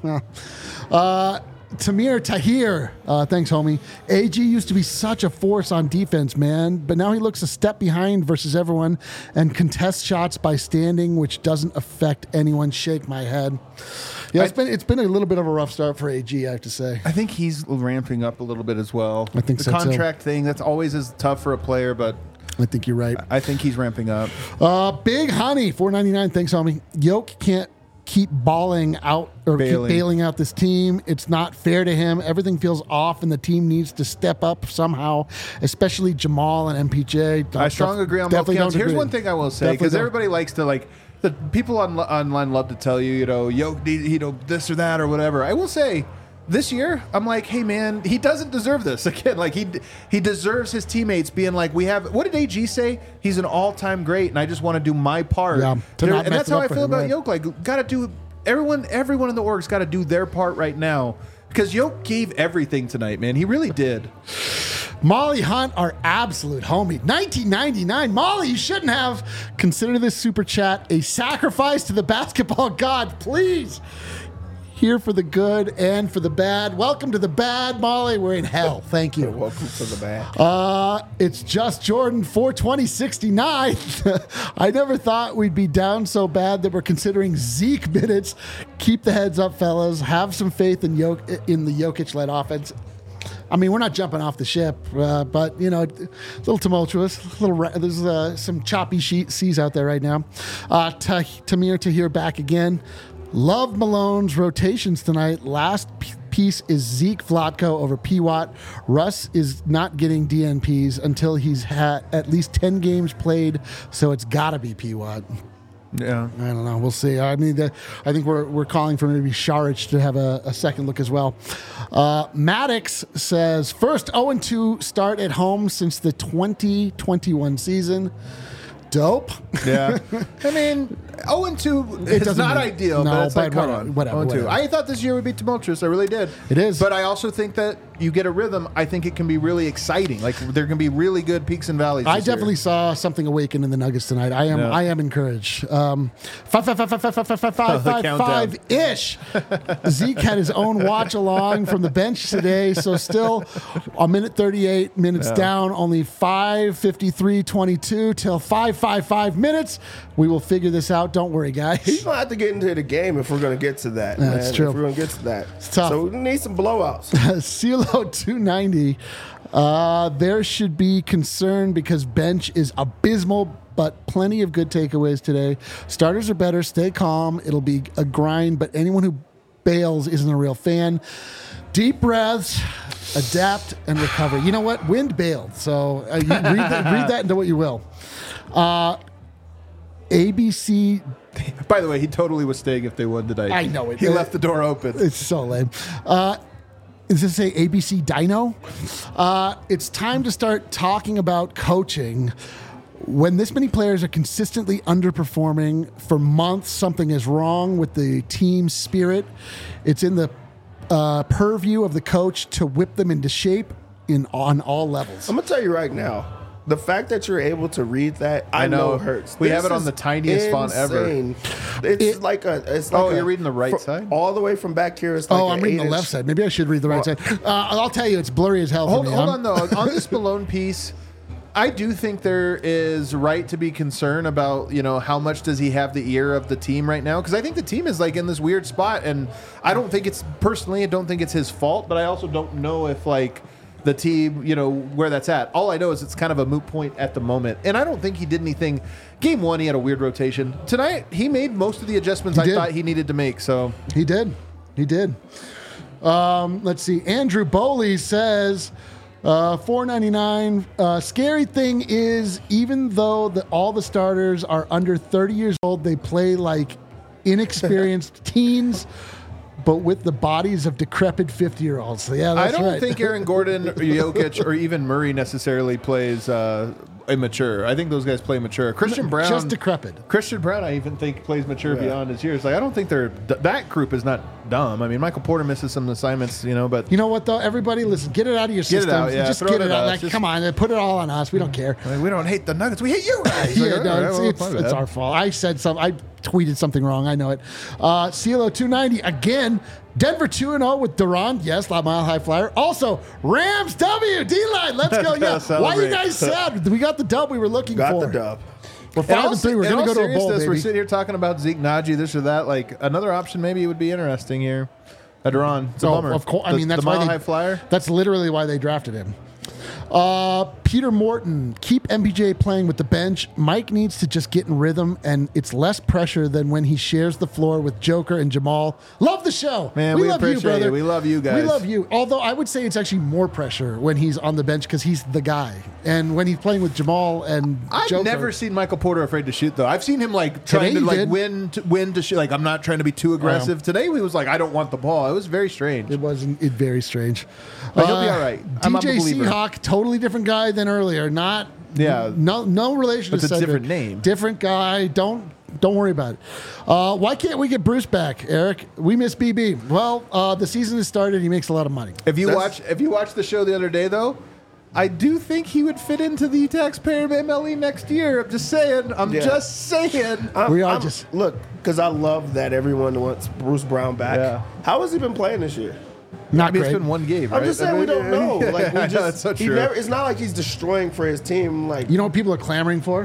Uh, Tamir Tahir, uh, thanks, homie. A G used to be such a force on defense, man, but now he looks a step behind versus everyone and contests shots by standing, which doesn't affect anyone. Shake my head. Yeah, it's I- been it's been a little bit of a rough start for A G, I have to say. I think he's ramping up a little bit as well. I think the so, too. contract thing, that's always as tough for a player, but I think you're right. I think he's ramping up. Uh, Big Honey, four ninety-nine. Thanks, homie. Yoke can't keep balling out or Bailing. keep bailing out this team. It's not fair to him. Everything feels off, and the team needs to step up somehow, especially Jamal and M P J. I strongly agree on both Definitely counts. don't Here's agree. one thing I will say, Definitely because don't. everybody likes to, like, the people on, online love to tell you, you know, Yoke, need- you know, this or that or whatever. I will say, this year, I'm like, hey, man, he doesn't deserve this. Again, like, he he deserves his teammates being like, we have, what did A G say? He's an all-time great, and I just want to do my part. Yeah, to There- not and mess that's it how up I for feel him, about right. Yoke. Like, got to do, everyone everyone in the org's got to do their part right now. Because Yoke gave everything tonight, man. He really did. Molly Hunt, our absolute homie. nineteen ninety-nine. Molly, you shouldn't have. Consider this super chat a sacrifice to the basketball god, please. Here for the good and for the bad. Welcome to the bad, Molly. We're in hell. Thank you. Welcome to the back. Uh, it's just Jordan four twenty sixty-nine. I never thought we'd be down so bad that we're considering Zeke minutes. Keep the heads up, fellas. Have some faith in Jok- in the Jokic-led offense. I mean, we're not jumping off the ship, uh, but, you know, it's a little tumultuous. A little ra- There's uh, some choppy she- seas out there right now. Uh, Ta- Tamir Tahir back again. Love Malone's rotations tonight. Last p- piece is Zeke Vlatko over P. Watt. Russ is not getting D N Ps until he's had at least ten games played, so it's got to be P. Watt. Yeah. I don't know. We'll see. I mean, the, I think we're we're calling for maybe Sharich to have a, a second look as well. Uh, Maddox says first oh and two start at home since the twenty twenty-one season. Dope. Yeah. I mean, oh and two It is doesn't not mean- ideal, no, but it's like, but come whatever, on. whatever, oh and two. whatever. I thought this year would be tumultuous. I really did. It is. But I also think that you get a rhythm. I think it can be really exciting. Like, there can be really good peaks and valleys. I this year. definitely saw something awaken in the Nuggets tonight. I am Yeah. I am encouraged. Um, five five five five five five five five five five countdown. five ish. Zeke had his own watch along from the bench today, so still a minute thirty eight minutes Yeah. down, only five fifty three twenty two till five five five minutes. We will figure this out. Don't worry, He's guys. gonna have to get into the game if we're gonna get to that. Yeah, man. it's true. If we're gonna get to that, tough. so we need some blowouts. CeeLo two ninety. Uh, there should be concern because bench is abysmal, but plenty of good takeaways today. Starters are better. Stay calm. It'll be a grind, but anyone who bails isn't a real fan. Deep breaths, adapt, and recover. You know what? Wind bailed. So uh, you read, that, read that into what you will. Uh, A B C. By the way, he totally was staying if they won tonight. I know it. He left the door open. It's so lame. Uh, does it say A B C Dino? Uh, it's time to start talking about coaching. When this many players are consistently underperforming for months, something is wrong with the team spirit. It's in the uh, purview of the coach to whip them into shape in on all levels. I'm gonna tell you right now, the fact that you're able to read that, I, I know. know hurts. We This have it on is the tiniest font ever. insane. It's It- like a. It's like Oh, a- you're reading the right fr- side? all the way from back here. It's like Oh, an I'm reading the eight-inch- left side. Maybe I should read the right Well- side. Uh, I'll tell you, it's blurry as hell for Hold, me. hold I'm- on, though. On this Malone piece, I do think there is right to be concerned about, you know, how much does he have the ear of the team right now? Because I think the team is like in this weird spot, and I don't think it's personally, I don't think it's his fault, but I also don't know if like the team, you know, where that's at. All I know is it's kind of a moot point at the moment, and I don't think he did anything. Game one, he had a weird rotation. Tonight, he made most of the adjustments He I did. thought he needed to make. So He did. He did. Um, let's see. Andrew Bowley says, uh, four ninety-nine. Uh, scary thing is, even though the, all the starters are under thirty years old, they play like inexperienced teens, but with the bodies of decrepit fifty-year-olds. So, yeah, I that's don't right. think Aaron Gordon, or Jokic, or even Murray necessarily plays uh, immature. I think those guys play mature. Christian Brown, Just decrepit. Christian Brown, I even think plays mature Yeah. beyond his years. Like I don't think they're that group is not dumb. I mean, Michael Porter misses some assignments, you know, but You know what, though? Everybody, listen, get it out of your Get it system. out, yeah. Just Throw get it it at out. us. Like, Just- come on, put it all on us. We don't care. I mean, we don't hate the Nuggets. We hate you guys. Yeah, Like, no, all right, it's, well, it's, my it's bad. our fault. I said something. I tweeted something wrong. I know it. Uh, CeeLo two ninety again. Denver two and oh with Durant. Yes, La Mile High Flyer. Also, Rams W. D-line. Let's go. Let's go Yeah. Why celebrate. you guys sad? We got the dub we were looking Got for. the dub. We're In five all and three. We're se- in going to all go to a bowl, seriousness, We're baby. sitting here talking about Zeke Naji, this or that. Like another option, maybe it would be interesting here. Adron, it's a Oh, bummer. of course. I The- mean, that's the why Mile they, High Flyer. That's literally why they drafted him. Uh, Peter Morton, keep M P J playing with the bench. Mike needs to just get in rhythm, and it's less pressure than when he shares the floor with Joker and Jamal. Love the show, Man, we appreciate you. We love you guys. We love you. Although I would say it's actually more pressure when he's on the bench because he's the guy, and when he's playing with Jamal and I've Joker. never seen Michael Porter afraid to shoot though. I've seen him like trying Today to he like did. win to win to shoot. Like I'm not trying to be too aggressive. Today he was like I don't want the ball. It was very strange. It wasn't. It very strange. But he'll be all right. I'm a D J believer. Seahawk, totally different guy than earlier. Not Yeah. no no relation It's to a Cedric. different name. Different guy. Don't don't worry about it. Uh, why can't we get Bruce back, Eric? We miss B B. Well, uh, the season has started. He makes a lot of money. If you That's- watch if you watched the show the other day though, I do think he would fit into the taxpayer M L E next year. I'm just saying. I'm Yeah. just saying. I'm, We are I'm- just- look because I love that everyone wants Bruce Brown back. Yeah. How has he been playing this year? Not I mean, great. it's been one game. I'm right? just saying I we mean, don't know. Like we I know, just, it's so he true. never, it's not like he's destroying for his team. Like You know what people are clamoring for?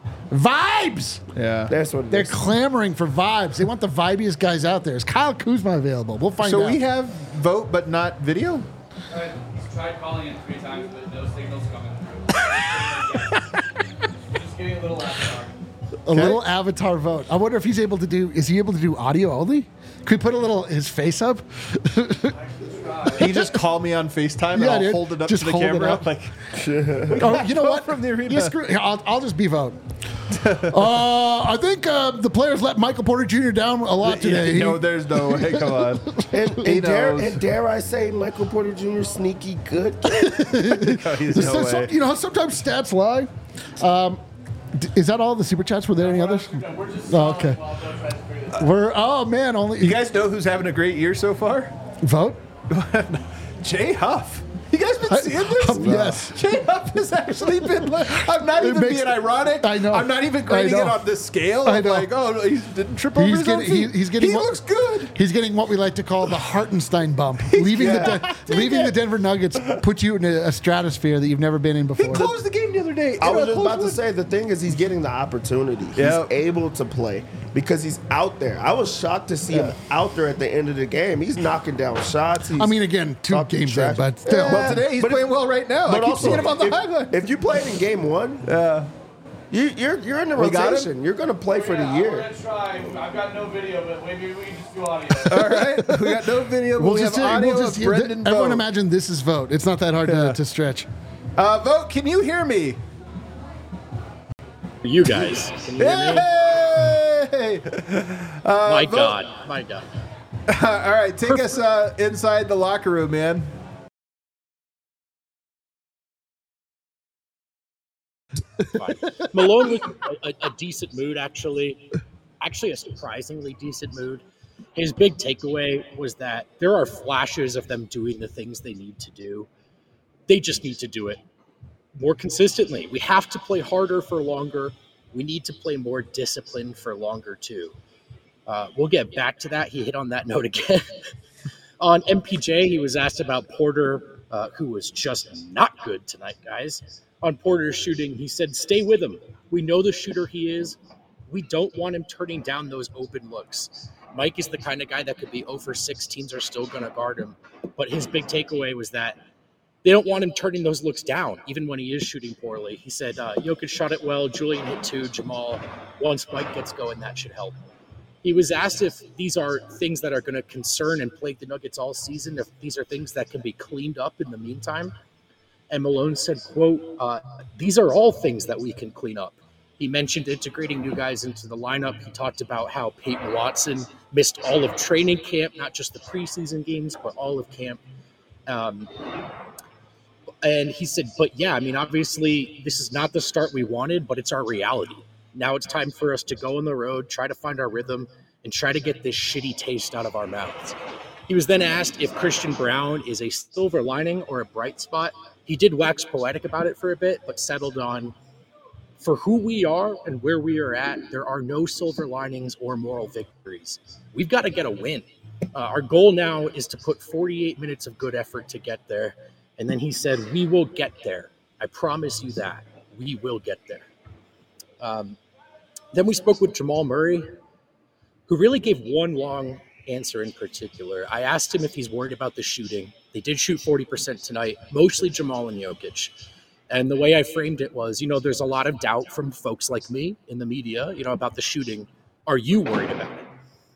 Vibes. yeah. that's what it They're is. clamoring for vibes. They want the vibiest guys out there. Is Kyle Kuzma available? We'll find So out. we have vote but not video. Uh, he's tried calling in three times, but no signals coming through. Just getting a little avatar. a little avatar vote. I wonder if he's able to do. Is he able to do audio only? Could we put a little his face up? He just call me on FaceTime Yeah, and I'll dude. hold it up Just to the hold it camera. up. Like Oh, you know what? from the arena. Yeah, screw, I'll, I'll just be vote. uh, I think uh, the players let Michael Porter Junior down a lot today. Yeah, no, there's no way. Come on. And, He and, dare, knows. and dare I say, Michael Porter Junior sneaky good. No, he's no So- way. so- you know, sometimes stats lie. Um, d- is that all the super chats? Were there any others? We're just Oh, okay. while Bill tries to figure this out. We're oh man, only You guys know who's having a great year so far? vote. Jay Huff. You guys been seeing this? Yes. Jay Huff has actually been. I'm not It even makes- being ironic. I know. I'm not even I grading it know. on this scale. I I'm know. like, oh, he didn't trip over He's his own getting he, feet. he's getting He what, looks good. He's getting what we like to call the Hartenstein bump. leaving Yeah. the De- leaving the Denver Nuggets puts you in a, a stratosphere that you've never been in He before. closed the game the other day. I in was a just close about to one. say, the thing is he's getting the opportunity. Yeah. He's able to play because he's out there. I was shocked to see him out there at the end of the game. He's knocking down shots. He's I mean, again, two talking games trash. in, but still. But today he's But playing well right now. I But keep also, seeing him on the if, highlight. if you played in game one, Yeah. you, you're you're in the We got him? rotation. You're going to play for the Yeah, year. We're gonna try. I've got no video, but maybe we can just do audio. All right. We got no video, but We'll we just, have say- audio we'll just of Brendan everyone Vogt. imagine this is vote. It's not that hard Yeah. to, to stretch. Uh, Vogt, can you hear me? You guys. Can you hear me? Hey! Uh, My Vogt- God. My God. All right, take us uh, inside the locker room, man. Fine. Malone was a, a decent mood, actually. Actually, a surprisingly decent mood. His big takeaway was that there are flashes of them doing the things they need to do. They just need to do it more consistently. We have to play harder for longer. We need to play more disciplined for longer, too. Uh, we'll get back to that. He hit on that note again. On M P J, he was asked about Porter, uh, who was just not good tonight, guys. On Porter's shooting, he said, stay with him. We know the shooter he is. We don't want him turning down those open looks. Mike is the kind of guy that could be zero for six. Teams are still going to guard him. But his big takeaway was that they don't want him turning those looks down, even when he is shooting poorly. He said, uh, Jokic shot it well. Julian hit two. Jamal, once Mike gets going, that should help. He was asked if these are things that are going to concern and plague the Nuggets all season, if these are things that can be cleaned up in the meantime. And Malone said, quote, uh, these are all things that we can clean up. He mentioned integrating new guys into the lineup. He talked about how Peyton Watson missed all of training camp, not just the preseason games, but all of camp. Um, and he said, but yeah, I mean, obviously this is not the start we wanted, but it's our reality. Now it's time for us to go on the road, try to find our rhythm, and try to get this shitty taste out of our mouths. He was then asked if Christian Brown is a silver lining or a bright spot. He did wax poetic about it for a bit, but settled on, for who we are and where we are at, there are no silver linings or moral victories. We've got to get a win. Uh, our goal now is to put forty-eight minutes of good effort to get there. And then he said, we will get there. I promise you that. We will get there. Um, then we spoke with Jamal Murray, who really gave one long answer in particular. I asked him if he's worried about the shooting. They did shoot forty percent tonight, mostly Jamal and Jokic. And the way I framed it was, you know, there's a lot of doubt from folks like me in the media, you know, about the shooting. Are you worried about it?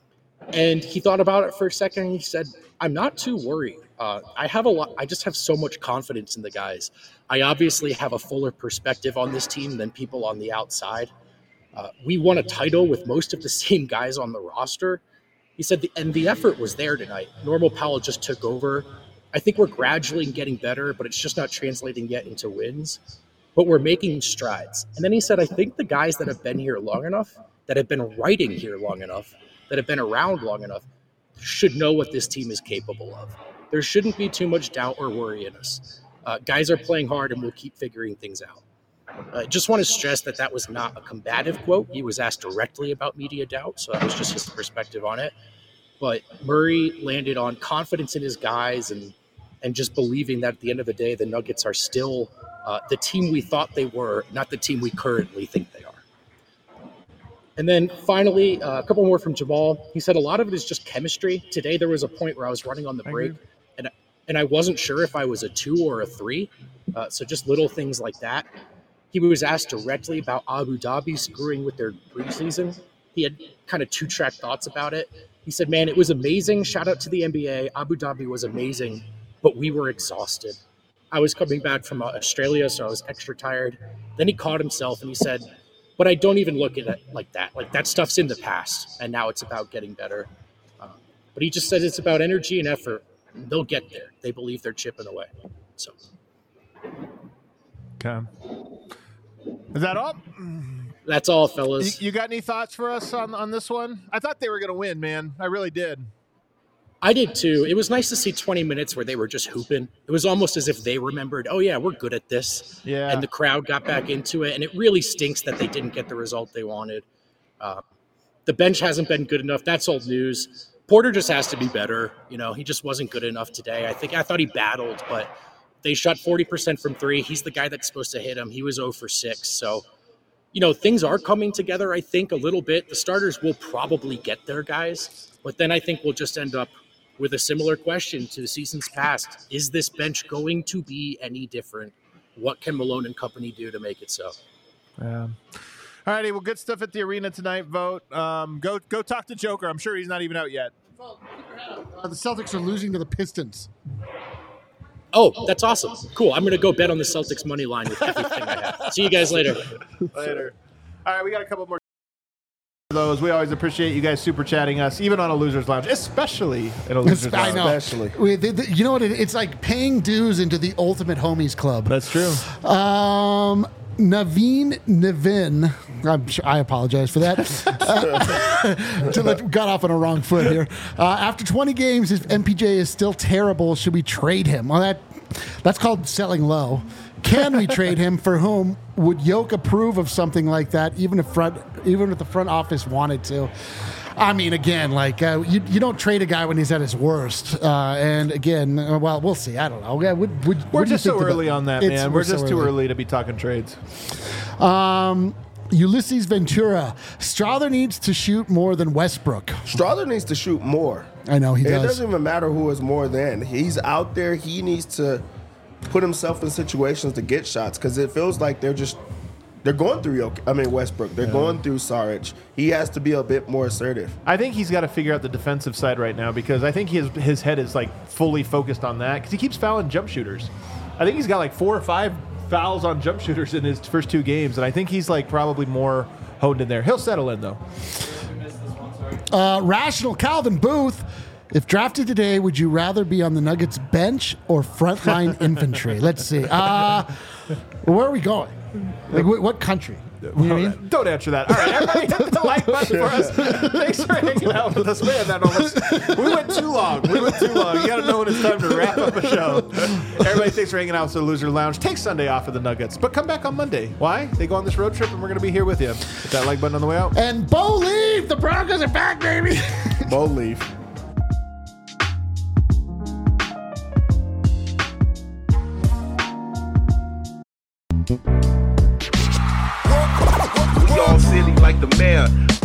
And he thought about it for a second and he said, I'm not too worried. Uh, I have a lot. I just have so much confidence in the guys. I obviously have a fuller perspective on this team than people on the outside. Uh, we won a title with most of the same guys on the roster. He said, the, and the effort was there tonight. Normal Powell just took over. I think we're gradually getting better, but it's just not translating yet into wins. But we're making strides. And then he said, I think the guys that have been here long enough, that have been writing here long enough, that have been around long enough, should know what this team is capable of. There shouldn't be too much doubt or worry in us. Uh, guys are playing hard, and we'll keep figuring things out. I uh, just want to stress that that was not a combative quote. He was asked directly about media doubt, so that was just his perspective on it. But Murray landed on confidence in his guys and and just believing that at the end of the day, the Nuggets are still uh, the team we thought they were, not the team we currently think they are. And then finally, uh, a couple more from Jamal. He said a lot of it is just chemistry. Today there was a point where I was running on the break, and and I wasn't sure if I was a two or a three. Uh, so just little things like that. He was asked directly about Abu Dhabi screwing with their preseason. He had kind of two-track thoughts about it. He said, man, it was amazing. Shout out to the N B A. Abu Dhabi was amazing, but we were exhausted. I was coming back from Australia, so I was extra tired. Then he caught himself and he said, But I don't even look at it like that. Like that stuff's in the past, and now it's about getting better. Uh, but he just says it's about energy and effort. And they'll get there. They believe they're chipping away. So, okay, is that all? that's all, fellas. You, you got any thoughts for us on on this one? I thought they were going to win, man. I really did. I did too. It was nice to see twenty minutes where they were just hooping. It was almost as if they remembered, oh yeah, we're good at this. Yeah. And the crowd got back into it. And it really stinks that they didn't get the result they wanted. Uh, the bench hasn't been good enough. That's old news. Porter just has to be better. You know, he just wasn't good enough today. I think I thought he battled, but they shot forty percent from three. He's the guy that's supposed to hit him. He was zero for six. So, you know, things are coming together, I think, a little bit. The starters will probably get there, guys. But then I think we'll just end up with a similar question to the seasons past. Is this bench going to be any different? What can Malone and company do to make it so? Yeah. All righty. Well, good stuff at the arena tonight, Vogt. Um, go go talk to Joker. I'm sure he's not even out yet. Uh, the Celtics are losing to the Pistons. Oh, that's awesome. Cool. I'm going to go bet on the Celtics money line with everything I have. See you guys later. Later. All right. We got a couple more. Those we always appreciate you guys super chatting us, even on a Losers Lounge, especially in a Losers I Lounge. know. Especially. We- they- they- You know what? It, it's like paying dues into the Ultimate Homies Club. That's true. Um, Naveen Navin, I'm sure, I apologize for that. Uh, to let, got off on a wrong foot here. Uh, after twenty games, if M P J is still terrible, should we trade him? Well, that that's called selling low. Can we trade him? For whom? Would Yoke approve of something like that, even if front, even if the front office wanted to? I mean, again, like uh, you, you don't trade a guy when he's at his worst. Uh, and again, uh, well, we'll see. I don't know. Yeah, would, would, We're what do you just so think about- early on that, It's- man. We're, so just too early to be talking trades. Um, Ulysses Ventura. Strother needs to shoot more than Westbrook. Strother needs to shoot more. I know he It does. doesn't even matter who is more than. He's out there. He needs to put himself in situations to get shots because it feels like they're just they're going through Yoke. I mean Westbrook. They're Yeah. going through Saric. He has to be a bit more assertive. I think he's got to figure out the defensive side right now because I think his his head is like fully focused on that because he keeps fouling jump shooters. I think he's got like four or five fouls on jump shooters in his first two games, and I think he's like probably more honed in there. He'll settle in though. Uh, Rational Calvin Booth. If drafted today, would you rather be on the Nuggets bench or frontline infantry? Let's see. Uh, where are we going? Like, wh- what country? You know what I mean? Don't answer that. All right, everybody hit the like button for us. Thanks for hanging out with us. Man, that almost, we went too long. We went too long. You got to know when it's time to wrap up a show. Everybody, thanks for hanging out with the Loser Lounge. Take Sunday off of the Nuggets, but come back on Monday. Why? They go on this road trip, and we're going to be here with you. Hit that like button on the way out. And Bo Leaf, the Broncos are back, baby. Bo leave. We all silly like the mayor.